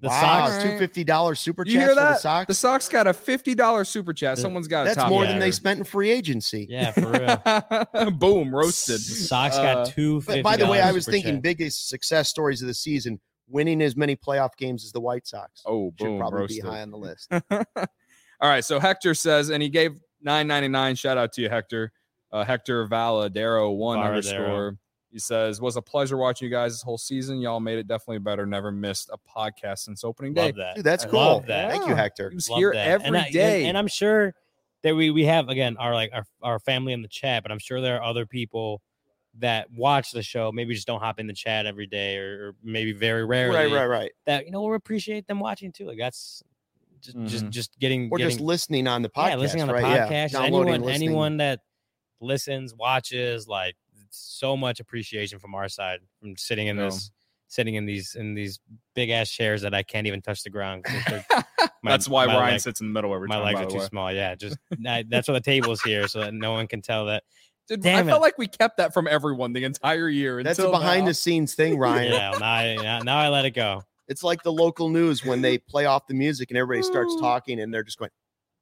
S2: The
S1: wow,
S2: Sox.
S1: two fifty dollars super
S3: You
S1: chats
S3: hear
S1: for the
S3: that?
S1: Sox.
S3: The Sox got a fifty dollars super chat. Someone's got a
S1: That's
S3: top
S1: more
S2: yeah.
S1: than they
S3: here.
S1: spent in free agency.
S2: Yeah, for real.
S3: Boom, roasted.
S2: Sox
S3: Uh,
S2: got two.
S1: But by the way, I was
S2: super
S1: thinking
S2: chat.
S1: biggest success stories of the season, winning as many playoff games as the White Sox.
S3: Oh,
S1: Should
S3: boom,
S1: probably
S3: roasted.
S1: be high on the list.
S3: All right, so Hector says, and he gave nine ninety-nine. Shout out to you, Hector. Uh, Hector Valadero one
S2: Valadero.
S3: underscore. He says, was a pleasure watching you guys this whole season. Y'all made it definitely better. Never missed a podcast since opening day.
S2: Love that.
S1: Dude, that's
S2: I
S1: cool.
S2: love that.
S1: Thank you,
S3: Yeah.
S1: Hector.
S3: He was
S2: Love
S3: here
S2: that.
S3: every
S2: and I,
S3: day.
S2: And, and I'm sure that we we have again our like our, our family in the chat, but I'm sure there are other people that watch the show, maybe just don't hop in the chat every day, or, or maybe very rarely.
S1: Right, right, right.
S2: That you know we appreciate them watching too. Like that's just just
S3: Mhm.
S2: just getting
S1: Or
S2: getting,
S1: just listening on the podcast.
S2: yeah, listening on the
S1: right?
S2: podcast.
S1: Yeah.
S2: Just
S1: Downloading,
S2: anyone
S1: listening.
S2: anyone that listens, watches, like so much appreciation from our side from sitting in
S3: Yeah.
S2: this sitting in these in these big ass chairs that I can't even touch the ground. 'cause they're- my-
S3: That's why
S2: my
S3: Ryan
S2: leg-
S3: sits in the middle every
S2: my
S3: time.
S2: legs
S3: by
S2: are
S3: the
S2: too
S3: way.
S2: small. Yeah, just I, that's why the table is here so that no one can tell that.
S3: Dude,
S2: Damn
S3: I felt
S2: it.
S3: like we kept that from everyone the entire year.
S1: That's a
S3: until
S1: behind
S3: now.
S1: the scenes thing, Ryan.
S2: Yeah, now I, now- now I let it go.
S1: It's like the local news when they play off the music and everybody starts talking and they're just going,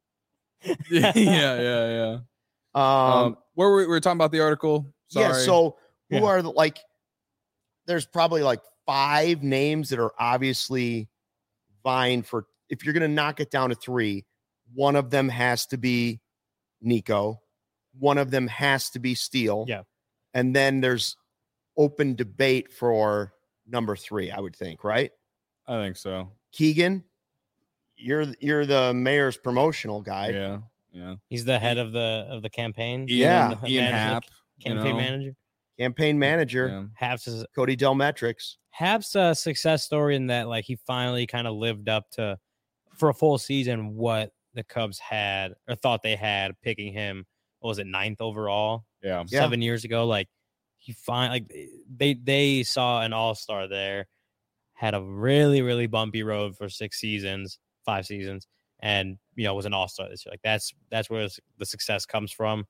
S3: yeah, yeah, yeah.
S1: um,
S3: Um, where were we, we were talking about the article? Sorry.
S1: yeah. So who
S2: Yeah.
S1: are the like, there's probably like five names that are obviously vying for, if you're going to knock it down to three, one of them has to be Nico. One of them has to be Steele.
S2: Yeah.
S1: And then there's open debate for number three, I would think, right?
S3: I think so.
S1: Keegan, you're you're the mayor's promotional guy.
S3: Yeah, yeah.
S2: He's the head of the of the campaign.
S1: Yeah.
S2: the
S3: Ian
S2: manager-
S3: Happ. you
S2: campaign
S3: know?
S2: manager.
S1: Campaign manager,
S3: Yeah.
S2: Happ's is
S1: Cody Delmetrics.
S2: Happ's a success story in that like he finally kind of lived up to for a full season what the Cubs had or thought they had picking him. What was it, ninth overall?
S3: Yeah.
S1: Yeah.
S2: Seven years ago. Like he find like they they saw an all-star there, had a really, really bumpy road for six seasons, five seasons, and you know, was an all-star this year. Like that's that's where the success comes from.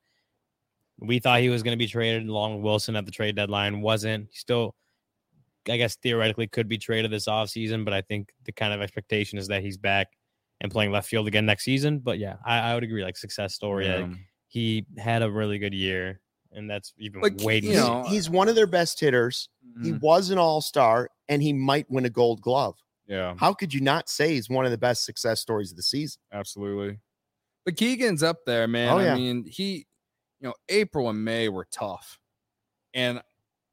S2: We thought he was going to be traded along with Wilson at the trade deadline. Wasn't. He still, I guess, theoretically could be traded this offseason, but I think the kind of expectation is that he's back and playing left field again next season. But yeah, I, I would agree. Like success story.
S3: Yeah.
S2: Like, he had a really good year, and that's even
S3: Like,
S2: way
S3: you
S1: He's,
S3: know,
S1: he's one of their best hitters. He
S3: Mhm.
S1: was an all-star, and he might win a gold glove.
S3: Yeah,
S1: How could you not say he's one of the best success stories of the season?
S3: absolutely. But Keegan's up there, man.
S1: Oh, yeah.
S3: I mean, he, you know, April and May were tough. And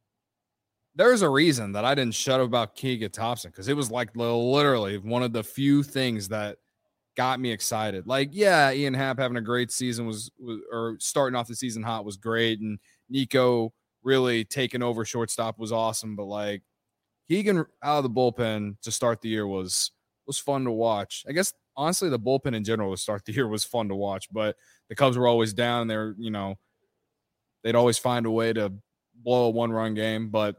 S3: there's a reason that I didn't shut up about Keegan Thompson because it was like literally one of the few things that got me excited. Like, yeah, Ian Happ having a great season was, was or starting off the season hot was great. And Nico really taking over shortstop was awesome. But like Keegan out of the bullpen to start the year was was fun to watch. I guess honestly, the bullpen in general to start the year was fun to watch, but the Cubs were always down. They're, you know, they'd always find a way to blow a one run game. But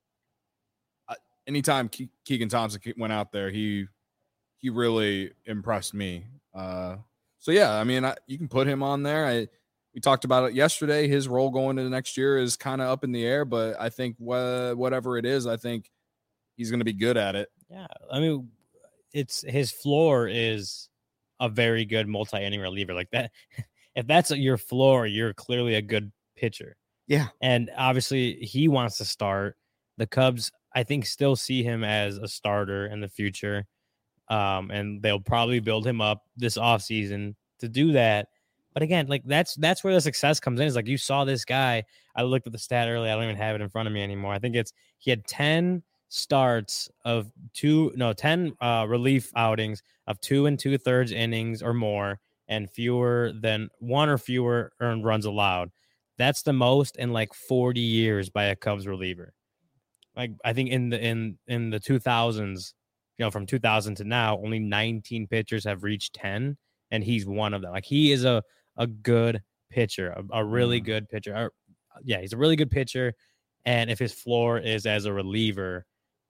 S3: I, anytime Ke- Keegan Thompson went out there, he he really impressed me. Uh, so yeah, I mean, I, you can put him on there. I we talked about it yesterday. His role going into next year is kind of up in the air, but I think wh- whatever it is, I think he's going to be good at it.
S2: Yeah, I mean, it's his floor is a very good multi-inning reliever like that. If that's your floor, you're clearly a good pitcher.
S1: Yeah.
S2: And obviously he wants to start. The Cubs, I think, still see him as a starter in the future. Um, and they'll probably build him up this offseason to do that. But again, like that's that's where the success comes in. Is like you saw this guy. I looked at the stat earlier. I don't even have it in front of me anymore. I think it's he had ten starts of two, no, ten uh, relief outings of two and two thirds innings or more, and fewer than one or fewer earned runs allowed. That's the most in like forty years by a Cubs reliever. Like I think in the in in the two thousands, you know, from two thousand to now, only nineteen pitchers have reached ten, and he's one of them. Like he is a a good pitcher, a, a really
S3: Mm.
S2: good pitcher. Or, yeah, he's a really good pitcher, and if his floor is as a reliever,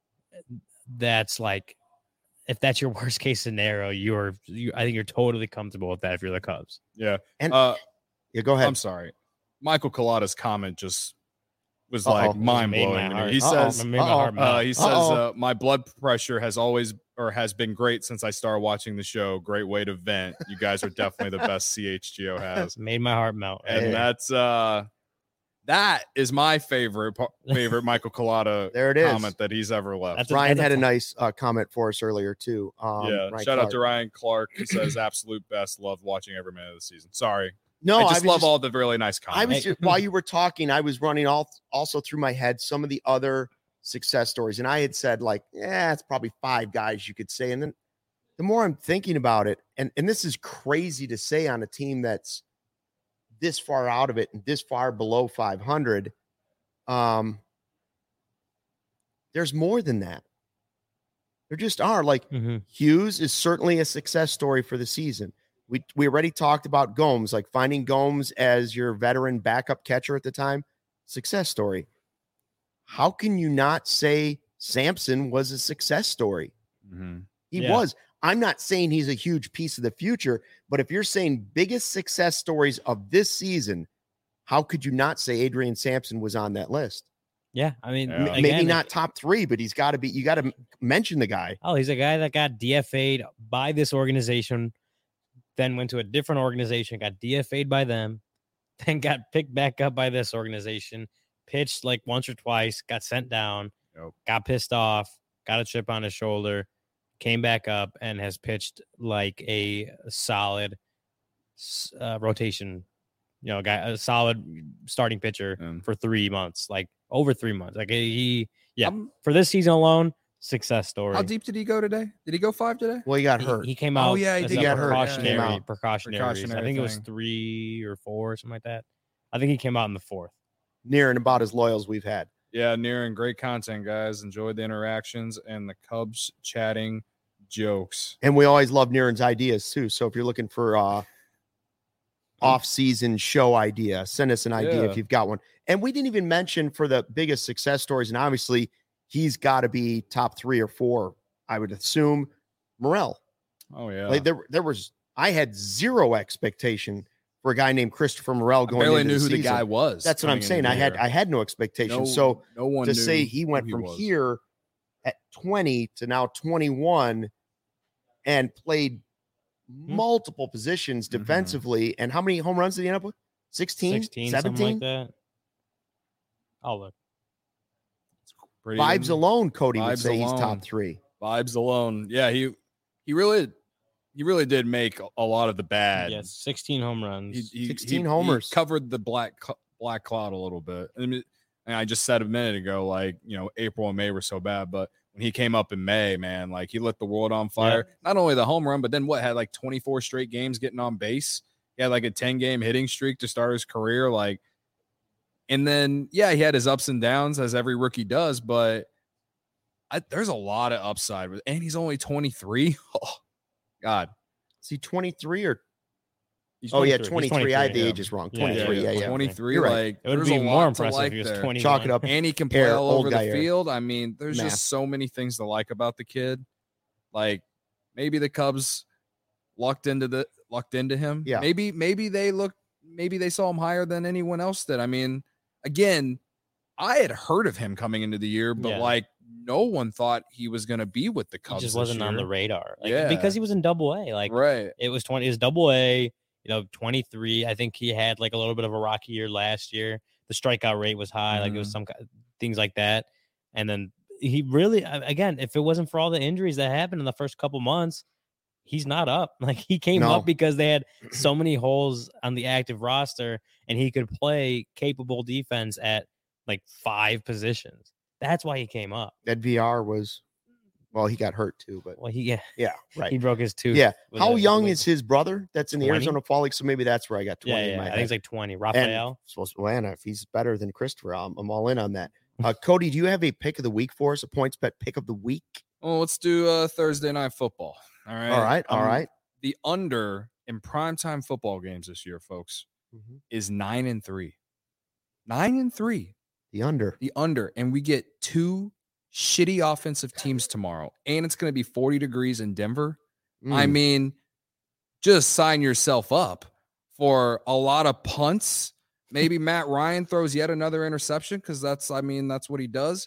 S2: that's like, if that's your worst case scenario, you're, you, I think you're totally comfortable with that if you're the Cubs.
S3: Yeah.
S1: And
S3: Uh,
S1: yeah, go ahead.
S3: I'm sorry. Michael Collada's comment just was
S1: Uh-oh.
S3: like mind
S2: Made my
S3: blowing.
S2: heart-
S3: He
S1: Uh-oh.
S3: says,
S2: Made my
S1: Uh-oh.
S2: heart melt.
S3: uh, he says,
S1: Uh-oh.
S3: uh, my blood pressure has always or has been great since I started watching the show. Great way to vent. You guys are definitely the best C H G O has.
S2: Made my heart melt.
S3: And
S1: Hey.
S3: that's uh that is my favorite pa- favorite Michael Collada
S1: There it is.
S3: comment that he's ever left.
S2: That's a-
S1: Ryan
S2: that's a
S1: had a
S2: fun-
S1: nice uh, comment for us earlier too. Um,
S3: yeah.
S1: Ryan
S3: Shout out to
S1: Clark.
S3: Ryan Clark. He says absolute best. Love watching every minute of the season. Sorry.
S1: No,
S3: I just
S1: was
S3: love all the really nice comments.
S1: I was
S2: Hey.
S1: just, while you were talking, I was running all also through my head some of the other success stories, and I had said like, yeah, it's probably five guys you could say, and then the more I'm thinking about it, and and this is crazy to say on a team that's this far out of it and this far below five hundred. Um, there's more than that. There just are. Like
S2: Mhm.
S1: Hughes is certainly a success story for the season. We we already talked about Gomes, like finding Gomes as your veteran backup catcher at the time, success story. How can you not say Sampson was a success story?
S3: Mhm.
S1: He
S2: Yeah.
S1: was. I'm not saying he's a huge piece of the future, but if you're saying biggest success stories of this season, how could you not say Adrian Sampson was on that list?
S2: Yeah, I mean,
S3: Yeah.
S1: M-
S2: again,
S1: Maybe
S2: like-
S1: not top three, but he's got to be. You got to mention the guy.
S2: Oh, he's a guy that got D F A'd by this organization, then went to a different organization, got D F A'd by them, then got picked back up by this organization, pitched like once or twice, got sent down,
S3: Yep.
S2: got pissed off, got a chip on his shoulder, came back up, and has pitched like a solid s- uh, rotation, you know, guy, a solid starting pitcher
S3: Yeah.
S2: for three months, like over three months. Like he, yeah,
S3: Um,
S2: for this season alone, success story.
S3: How deep did he go today? Did he go five today?
S1: Well, he got
S2: He-
S1: hurt.
S2: He, came
S3: Oh,
S2: out.
S3: yeah, he
S2: as
S3: did
S2: a
S1: get hurt. Yeah,
S2: Precautionary,
S1: came out.
S2: precautionary. I
S3: Precautionary
S2: think it was
S3: thing.
S2: three or four, or something like that. I think he came out in the fourth.
S1: Near and about as loyal as we've had.
S3: Yeah, near and great content, guys. Enjoyed the interactions and the Cubs chatting jokes.
S1: And we always love Niren's ideas too. So if you're looking for uh off-season show idea, send us an idea
S3: Yeah.
S1: if you've got one. And we didn't even mention for the biggest success stories, and obviously he's got to be top three or four, I would assume. Morel.
S3: Oh yeah.
S1: Like there, there was I had zero expectation for a guy named Christopher Morel
S3: I
S1: going
S3: barely
S1: into
S3: knew who the
S1: season.
S3: guy was.
S1: That's what I'm
S3: coming into
S1: saying.
S3: the
S1: I had
S3: year.
S1: I had no expectation.
S3: No-
S1: so
S3: no one
S1: to
S3: knew
S1: say he
S3: who
S1: went
S3: he
S1: from
S3: was.
S1: here at twenty to now twenty-one and played
S2: Hmm.
S1: multiple positions
S3: Mhm.
S1: defensively. And how many home runs did he end up with? sixteen,
S2: sixteen,
S1: seventeen?
S2: something like that. Oh, look.
S3: Pretty
S1: Vibes
S3: good.
S1: alone, Cody would
S3: Vibes
S1: say he's
S3: alone.
S1: top three.
S3: Vibes alone. Yeah, he he really he really did make a lot of the bad.
S2: Yes, sixteen home runs.
S3: He, he,
S1: sixteen
S3: he-
S1: homers.
S3: he covered the black cl- black cloud a little bit. I mean, and I just said a minute ago, like, you know, April and May were so bad, but when he came up in May, man, like he lit the world on fire. Not only the home run, but then what, had like twenty-four straight games getting on base. He had like a ten game hitting streak to start his career. Like, and then yeah, he had his ups and downs as every rookie does, but I, there's a lot of upside with, and he's only twenty-three. Oh, God.
S1: Is he twenty-three or
S2: He's
S1: oh yeah,
S2: twenty-three. He's
S1: twenty-three. I had the
S2: yeah.
S1: ages wrong.
S2: Yeah,
S1: twenty-three. Yeah, yeah.
S3: twenty-three.
S1: You're right.
S3: Like,
S2: It would
S3: there's
S2: be
S3: a
S2: more
S3: lot
S2: impressive
S3: to like
S2: if he was
S3: there.
S2: twenty.
S1: Chalk it up.
S3: And he can play
S1: Hair,
S3: all
S1: old
S3: over the
S1: guy hair.
S3: field. I mean, there's
S1: Math.
S3: just so many things to like about the kid. Like maybe the Cubs lucked into the lucked into him.
S1: Yeah.
S3: Maybe maybe they looked maybe they saw him higher than anyone else did. I mean, again, I had heard of him coming into the year, but
S2: Yeah.
S3: like no one thought he was going to be with the
S2: He
S3: Cubs.
S2: just
S3: this
S2: wasn't on the
S3: year.
S2: radar. Like,
S3: Yeah.
S2: because he was in double A. Like
S3: Right.
S2: it was twenty, it was double A, you know, twenty-three. I think he had like a little bit of a rocky year last year. The strikeout rate was high, like it was
S3: Mhm.
S2: some ki- things like that. And then he really, a- again, if it wasn't for all the injuries that happened in the first couple months, he's not up. Like he came
S1: No.
S2: up because they had so many holes on the active roster and he could play capable defense at like five positions. That's why he came up.
S1: That V R was well, he got hurt too, but
S2: Well, he, yeah,
S1: yeah, right.
S2: he broke his tooth.
S1: Yeah.
S2: with
S1: How
S2: a-
S1: young
S2: with-
S1: is his brother that's in the
S2: twenty?
S1: Arizona Fall League? So maybe that's where I got twenty
S2: Yeah,
S1: in
S2: yeah.
S1: my
S2: I
S1: head.
S2: think it's like twenty.
S1: And
S2: Raphael.
S1: supposed to Atlanta. If he's better than Christopher, I'm, I'm all in on that. Uh, Cody, do you have a pick of the week for us? A points bet pick of the week?
S3: Well, let's do uh, Thursday night football. All right.
S1: All right, all
S3: Um,
S1: right.
S3: The under in primetime football games this year, folks,
S1: Mhm.
S3: is nine and three. Nine and three.
S1: The under.
S3: The under. And we get two shitty offensive teams tomorrow. And it's going to be forty degrees in Denver. I
S1: Mm.
S3: mean, just sign yourself up for a lot of punts. Maybe Matt Ryan throws yet another interception because that's, I mean, that's what he does.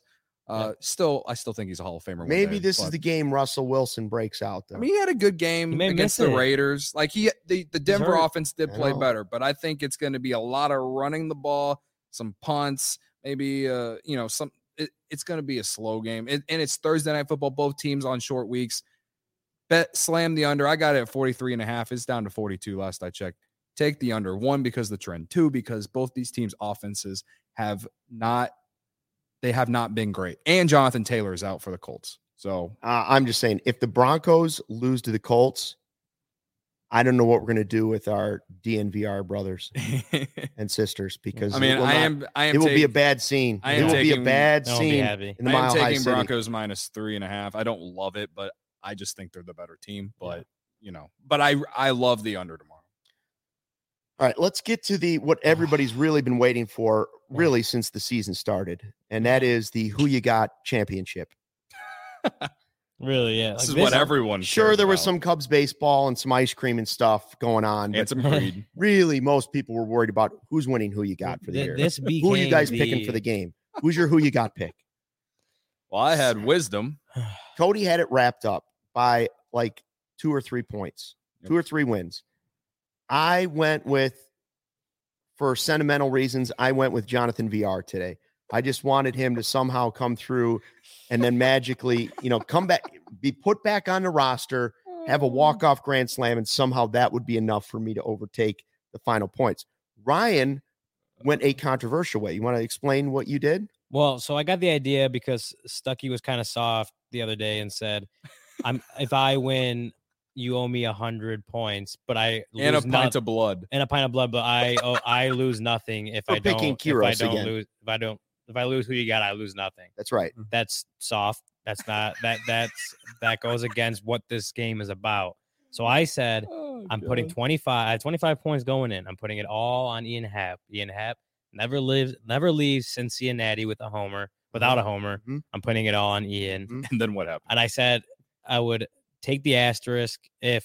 S3: Uh, still, I still think he's a Hall of Famer. one
S1: Maybe
S3: day,
S1: this is
S3: but-
S1: the game Russell Wilson breaks out, though.
S3: I mean, he had a good
S2: He
S3: game
S2: may
S3: against
S2: miss
S3: the
S2: it.
S3: Raiders. Like he, the, the Denver
S2: hurt.
S3: offense did
S1: I
S3: play
S1: know.
S3: better, but I think it's going to be a lot of running the ball, some punts, maybe, uh, you know, some. It, it's going to be a slow game, it, and it's Thursday night football. Both teams on short weeks. Bet slam the under. I got it at forty-three and a half. It's down to forty-two last I checked. Take the under. One, because the trend. Two, because both these teams' offenses have not. They have not been great, and Jonathan Taylor is out for the Colts. So
S1: Uh, I'm just saying, if the Broncos lose to the Colts, I don't know what we're going to do with our D N V R brothers and sisters because
S3: I mean,
S1: it will
S3: I
S1: not-
S3: am. I am.
S1: It will be a
S3: take-
S1: bad scene.
S3: I
S1: It
S3: am
S1: will be a
S3: taking-
S1: bad
S2: I won't be
S1: scene
S2: happy.
S1: in the
S3: I am
S1: Mile High
S3: taking
S1: City.
S3: Broncos minus three and a half. I don't love it, but I just think they're the better team. But you know, but I I love the under tomorrow.
S1: All right, let's get to the what everybody's really been waiting for, really since the season started, and that is the Who You Got Championship.
S2: Really, yeah.
S3: This
S2: Like
S3: is what everyone.
S1: Sure,
S3: cares
S1: there was
S3: about.
S1: some Cubs baseball and some ice cream and stuff going on, but
S3: and some greed.
S1: really, most people were worried about who's winning Who You Got for the
S2: Th-
S1: year.
S2: This became
S1: Who are you guys
S2: the,
S1: picking for the game? Who's your Who You Got pick?
S3: Well, I had wisdom.
S1: Cody had it wrapped up by like two or three points,
S3: Yep.
S1: two or three wins. I went with, for sentimental reasons, I went with Jonathan V R today. I just wanted him to somehow come through and then magically, you know, come back, be put back on the roster, have a walk-off grand slam, and somehow that would be enough for me to overtake the final points. Ryan went a controversial way. You want to explain what you did?
S2: Well, so I got the idea because Stuckey was kind of soft the other day and said, "I'm if I win, you owe me a hundred points, but I lose
S3: And a pint
S2: noth-
S3: of blood.
S2: and a pint of blood, but I oh, I lose nothing if
S1: We're
S2: I don't
S1: picking
S2: if I
S1: Kyros
S2: don't
S1: again.
S2: lose if I don't if I lose Who You Got, I lose nothing.
S1: That's right.
S2: That's soft. That's not that that's that goes against what this game is about. So I said
S3: Oh,
S2: I'm putting twenty-five I have twenty-five points going in. I'm putting it all on Ian Happ. Ian Happ never lives never leaves Cincinnati with a homer without a homer.
S1: Mhm.
S2: I'm putting it all on Ian.
S1: Mhm.
S3: And then what happened?
S2: And I said I would take the asterisk if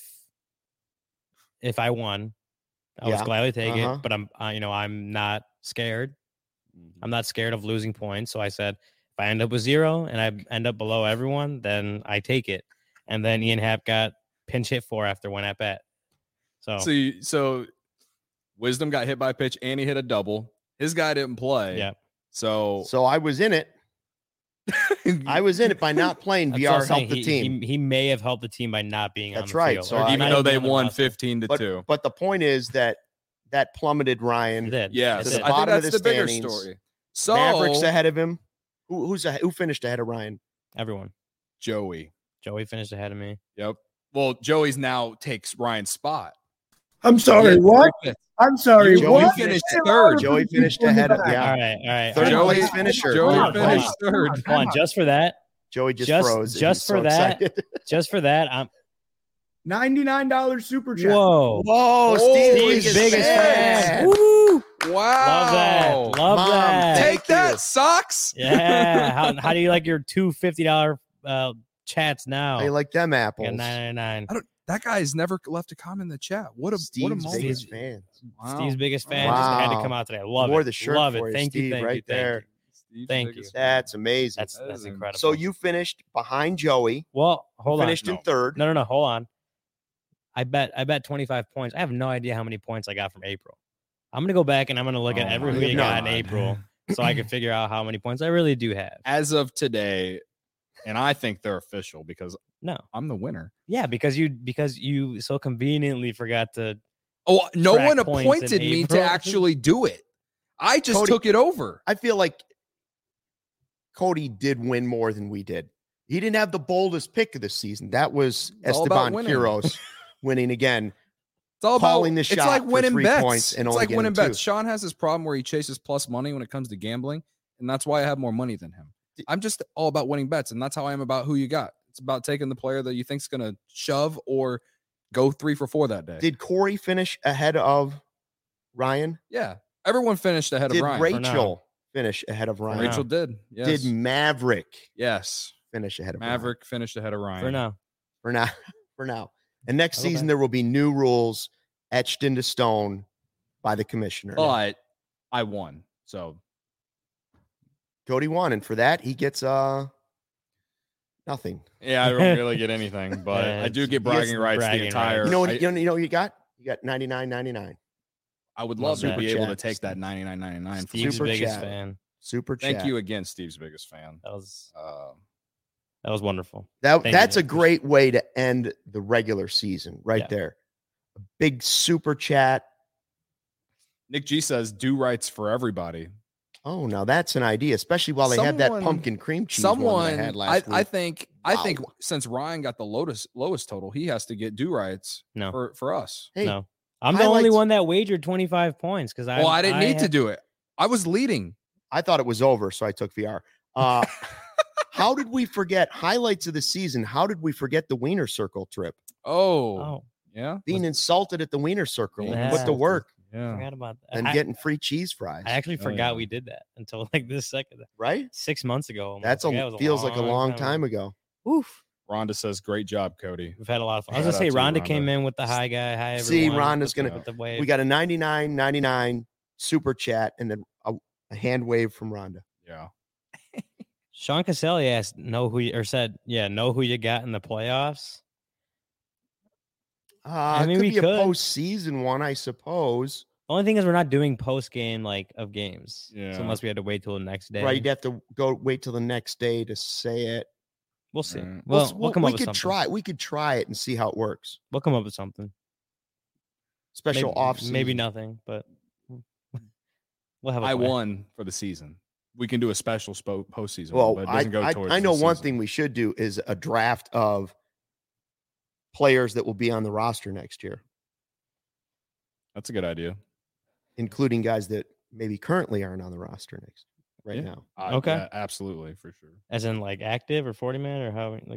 S2: if I won. I
S1: Yeah.
S2: would gladly take
S1: Uh-huh.
S2: it, but I'm uh, you know I'm not scared. I'm not scared of losing points. So I said if I end up with zero and I end up below everyone, then I take it. And then Ian Happ got pinch hit for after one at bat. So,
S3: So, you, so wisdom got hit by a pitch, and he hit a double. His guy didn't play.
S2: yeah.
S3: So
S1: So I was in it. I was in it by not playing.
S2: That's
S1: V
S2: what I'm
S1: R
S2: saying.
S1: helped the
S2: He-
S1: team.
S2: He, he may have helped the team by not being on
S1: That's
S2: the
S1: right.
S2: field.
S1: So
S2: or
S1: I-
S3: even
S2: not
S3: though they
S2: being on the
S3: won
S2: roster.
S3: fifteen to
S1: but,
S3: two.
S1: but the point is that that plummeted Ryan.
S2: It did.
S3: Yes,
S2: It
S1: to the
S2: did.
S3: I think
S1: bottom of
S3: that's
S1: the
S3: the bigger
S1: standings.
S3: story. So
S1: Mavericks ahead of him. Who, who's ahe- who finished ahead of Ryan?
S2: Everyone.
S3: Joey.
S2: Joey finished ahead of me.
S3: Yep. Well, Joey's now takes Ryan's spot.
S4: I'm sorry.
S3: Yeah,
S4: What?
S3: three fifths.
S4: I'm sorry.
S1: Joey
S4: what?
S3: finished
S4: Say a
S3: third.
S4: lot of
S1: Joey
S4: people
S1: finished
S4: in the
S1: ahead of-
S4: back.
S1: yeah.
S2: All right. All right.
S1: Third
S2: all right.
S1: place finisher.
S3: Joey
S2: Hold on, hold
S3: finished
S2: on.
S3: third.
S2: Hold on, just for that,
S1: Joey just,
S2: Just-
S1: froze.
S2: just
S1: He's
S2: for
S1: so
S2: that,
S1: excited.
S2: just for that, I'm
S4: ninety-nine dollars super chat.
S2: whoa.
S1: Whoa,
S3: Oh,
S1: Steve's
S2: Steve's
S1: biggest
S2: biggest
S1: fan.
S2: fan. Woo!
S3: Wow.
S2: Love that. Love
S1: Mom,
S2: that.
S1: thank
S3: Take that,
S1: you.
S3: socks.
S2: Yeah. How, how do you like your two fifty dollar uh, chats now?
S1: I like them apples.
S2: nine ninety-nine.
S3: I don't. That guy's never left a comment in the chat. What a what a
S1: Steve's
S3: moment.
S1: biggest fan.
S3: Wow.
S2: Steve's biggest fan just had to
S1: Wow.
S2: come out today. I love
S1: Wore
S2: it.
S1: the shirt
S2: love
S1: for
S2: it.
S1: you,
S2: Thank
S1: Steve,
S2: you. Thank
S1: right
S2: you. Thank
S1: there.
S2: you.
S3: Steve's
S2: Thank
S3: biggest
S2: you.
S3: fan.
S1: That's amazing.
S2: That's
S3: That
S2: that's
S3: is
S2: incredible.
S1: So you finished behind Joey.
S2: well hold on.
S1: finished in
S3: No.
S1: third.
S2: No, no, no. Hold on. I bet I bet twenty-five points. I have no idea how many points I got from April. I'm gonna go back and I'm gonna look at
S3: Oh
S2: every
S3: my
S2: who you got in
S3: God.
S2: April so I can figure out how many points I really do have.
S3: As of today, and I think they're official because
S2: No.
S3: I'm the winner.
S2: Yeah, because you because you so conveniently forgot to
S3: Oh, no
S2: Track
S3: one
S2: points in
S3: appointed me to
S2: April.
S3: actually do it. I just
S1: Cody-
S3: took it over.
S1: I feel like Cody did win more than we did. He didn't have the boldest pick of the season. That was
S3: It's all about
S1: Esteban
S3: winning.
S1: Quiros winning again.
S3: It's all
S1: calling
S3: about
S1: the
S3: it's
S1: shot
S3: like
S1: for
S3: winning
S1: three
S3: bets.
S1: points and
S3: it's
S1: only
S3: like
S1: getting
S3: winning
S1: two.
S3: bets. Sean has this problem where he chases plus money when it comes to gambling, and that's why I have more money than him. I'm just all about winning bets, and that's how I am about who you got. It's about taking the player that you think's going to shove or go three for four that day.
S1: Did Corey finish ahead of Ryan?
S3: yeah, everyone finished ahead
S1: Did
S3: of Ryan.
S2: for now.
S1: Rachel finish ahead of Ryan?
S2: now.
S3: Rachel did. Yes.
S1: Did Maverick
S3: yes.
S1: finish ahead of Ryan?
S3: Maverick finished ahead of Ryan.
S2: for now.
S1: For now. For now. And next
S2: Okay.
S1: season there will be new rules etched into stone by the commissioner.
S3: But I won. So
S1: Cody won, and for that he gets uh nothing.
S3: Yeah, I don't really get anything, but
S2: Yeah,
S3: I do
S2: it's-
S3: get
S2: he gets
S3: bragging rights
S2: bragging
S3: the entire.
S2: rights.
S1: You know what?
S3: I,
S1: You know, you know what you got? You got ninety-nine ninety-nine.
S3: I would
S2: Love
S3: love to
S2: that.
S3: be
S1: Super
S3: able to
S1: chat.
S3: take that ninety-nine ninety-nine.
S2: Steve's
S1: Super
S2: biggest
S1: chat.
S2: fan.
S1: Super chat.
S3: Thank you again, Steve's biggest fan.
S2: That was
S3: Um,
S2: that was wonderful.
S1: That
S2: Thank you,
S1: that's a
S2: Nick.
S1: great way to end the regular season, right
S2: Yeah.
S1: there. A big super chat.
S3: Nick G says, "Do rights for everybody."
S1: Oh, now that's an idea, especially while they had that
S3: Someone-
S1: pumpkin cream cheese one
S3: Someone,
S1: that I had
S3: I,
S1: last
S3: I
S1: week.
S3: think, I think,
S1: Wow.
S3: since Ryan got the lowest lowest total, he has to get do rights
S2: No.
S3: for for us.
S1: Hey,
S2: no, I'm the only
S1: highlights-
S2: one that wagered twenty-five points because I.
S3: well, I didn't need to
S2: had-
S3: do it. I was leading.
S1: I thought it was over, so I took V R. Uh, how did we forget highlights of the season? How did we forget the Wiener Circle trip?
S3: Oh,
S2: Oh,
S3: yeah,
S1: Being insulted at the Wiener Circle and
S2: Yeah.
S1: put to work
S2: I
S3: yeah.
S2: forgot about that.
S1: and
S2: I,
S1: getting free cheese fries,
S2: I actually
S3: Oh,
S2: forgot
S3: yeah.
S2: we did that until like this second,
S1: right?
S2: six months ago. almost.
S1: That's
S2: Like,
S1: a
S2: that was
S1: feels like a long time ago.
S2: Oof.
S3: Rhonda says, "Great job, Cody."
S2: We've had a lot of fun. I was
S3: Shout
S2: gonna say
S3: out to you,
S2: Rhonda came
S3: Rhonda.
S2: in with the hi guy. Hi everyone.
S1: See, Rhonda's
S2: with the-
S1: gonna-
S2: with the wave.
S1: We got a ninety-nine ninety-nine super chat and then a, a hand wave from Rhonda.
S3: Yeah,
S2: Sean Caselli asked, "Know who you or said, yeah, know who you got in the playoffs."
S1: Uh,
S2: I mean,
S1: it could
S2: we
S1: be a
S2: could.
S1: postseason one, I suppose.
S2: The only thing is we're not doing post game like of games.
S3: Yeah.
S2: So unless we had to wait till the next day.
S1: Right, you'd have to go wait till the next day to say it.
S2: We'll see.
S3: Right.
S2: Well,
S1: s-
S2: we'll, come
S1: we
S2: up with
S1: could
S2: something.
S1: try. We could try it and see how it works.
S2: We'll come up with something.
S1: Special
S2: maybe,
S1: off
S2: Maybe
S1: season.
S2: nothing, but we'll have a
S3: I
S2: plan.
S3: won for the season. We can do a special spo- postseason.
S1: Well,
S3: one, but it
S1: I,
S3: doesn't go
S1: I,
S3: towards
S1: I
S3: the
S1: know one
S3: season.
S1: thing we should do is a draft of players that will be on the roster next year,
S3: That's a good idea.
S1: including guys that maybe currently aren't on the roster next right
S3: Yeah.
S1: now.
S3: Uh,
S2: Okay.
S3: yeah, absolutely, for sure.
S2: As in like active or forty man or how like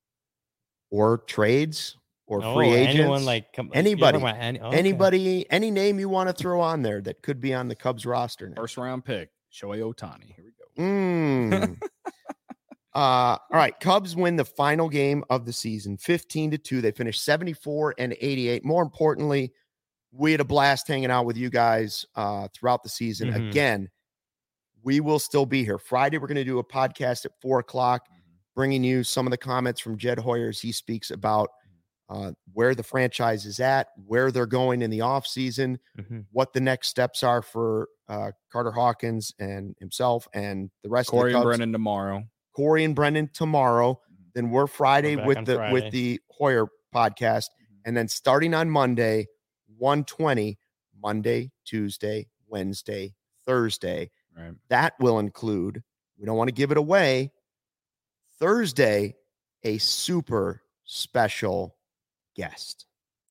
S1: Or trades or
S2: oh,
S1: free agents.
S2: anyone like come, you're talking
S1: Anybody.
S2: about any, okay.
S1: Anybody, any name you want to throw on there that could be on the Cubs roster next.
S3: First round pick, Shohei Ohtani. Here we go.
S1: Mm. uh, all right. Cubs win the final game of the season, fifteen to two. They finished seventy-four and eighty-eight. More importantly, we had a blast hanging out with you guys uh, throughout the season.
S2: Mhm.
S1: Again, we will still be here. Friday, we're going to do a podcast at four o'clock, bringing you some of the comments from Jed Hoyer as he speaks about uh, where the franchise is at, where they're going in the offseason,
S2: Mhm.
S1: what the next steps are for uh, Carter Hawkins and himself and the rest
S3: Corey
S1: of the
S3: and
S1: Cubs.
S3: Brennan tomorrow.
S1: Corey and Brendan tomorrow. Then we're Friday
S2: We're back
S1: with
S2: on
S1: the
S2: Friday.
S1: with the Hoyer podcast, and then starting on Monday, one twenty, Monday, Tuesday, Wednesday, Thursday.
S3: Right.
S1: That will include. We don't want to give it away. Thursday, a super special guest.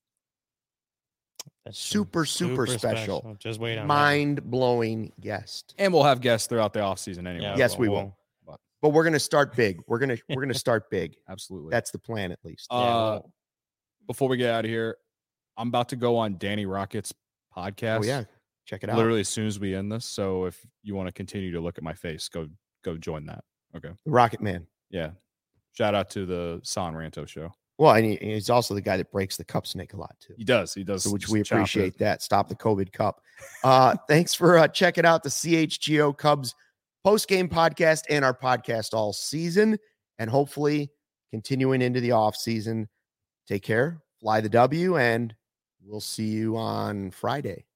S2: That's true.
S1: Super, super, special.
S2: Just wait on that.
S1: Mind blowing guest.
S3: And we'll have guests throughout the offseason anyway.
S2: Yeah,
S1: Yes, we
S2: we'll-
S1: will. But we're gonna start big. We're gonna we're gonna start big.
S3: Absolutely.
S1: That's the plan, at least.
S2: Yeah,
S3: uh,
S2: we'll-
S3: before we get out of here, I'm about to go on Danny Rocket's podcast.
S1: Oh yeah, check it out.
S3: Literally as soon as we end this. So if you want to continue to look at my face, go go join that. Okay.
S1: The Rocket Man.
S3: Yeah. Shout out to the San Ranto show.
S1: Well, and he, he's also the guy that breaks the cup snake a lot too.
S3: He does. He does.
S1: So which
S3: just
S1: we
S3: chop it.
S1: appreciate that. Stop the COVID Cup. Uh, thanks for uh, checking out the C H G O Cubs post game podcast and our podcast all season, and hopefully continuing into the off season. Take care, fly the W, and we'll see you on Friday.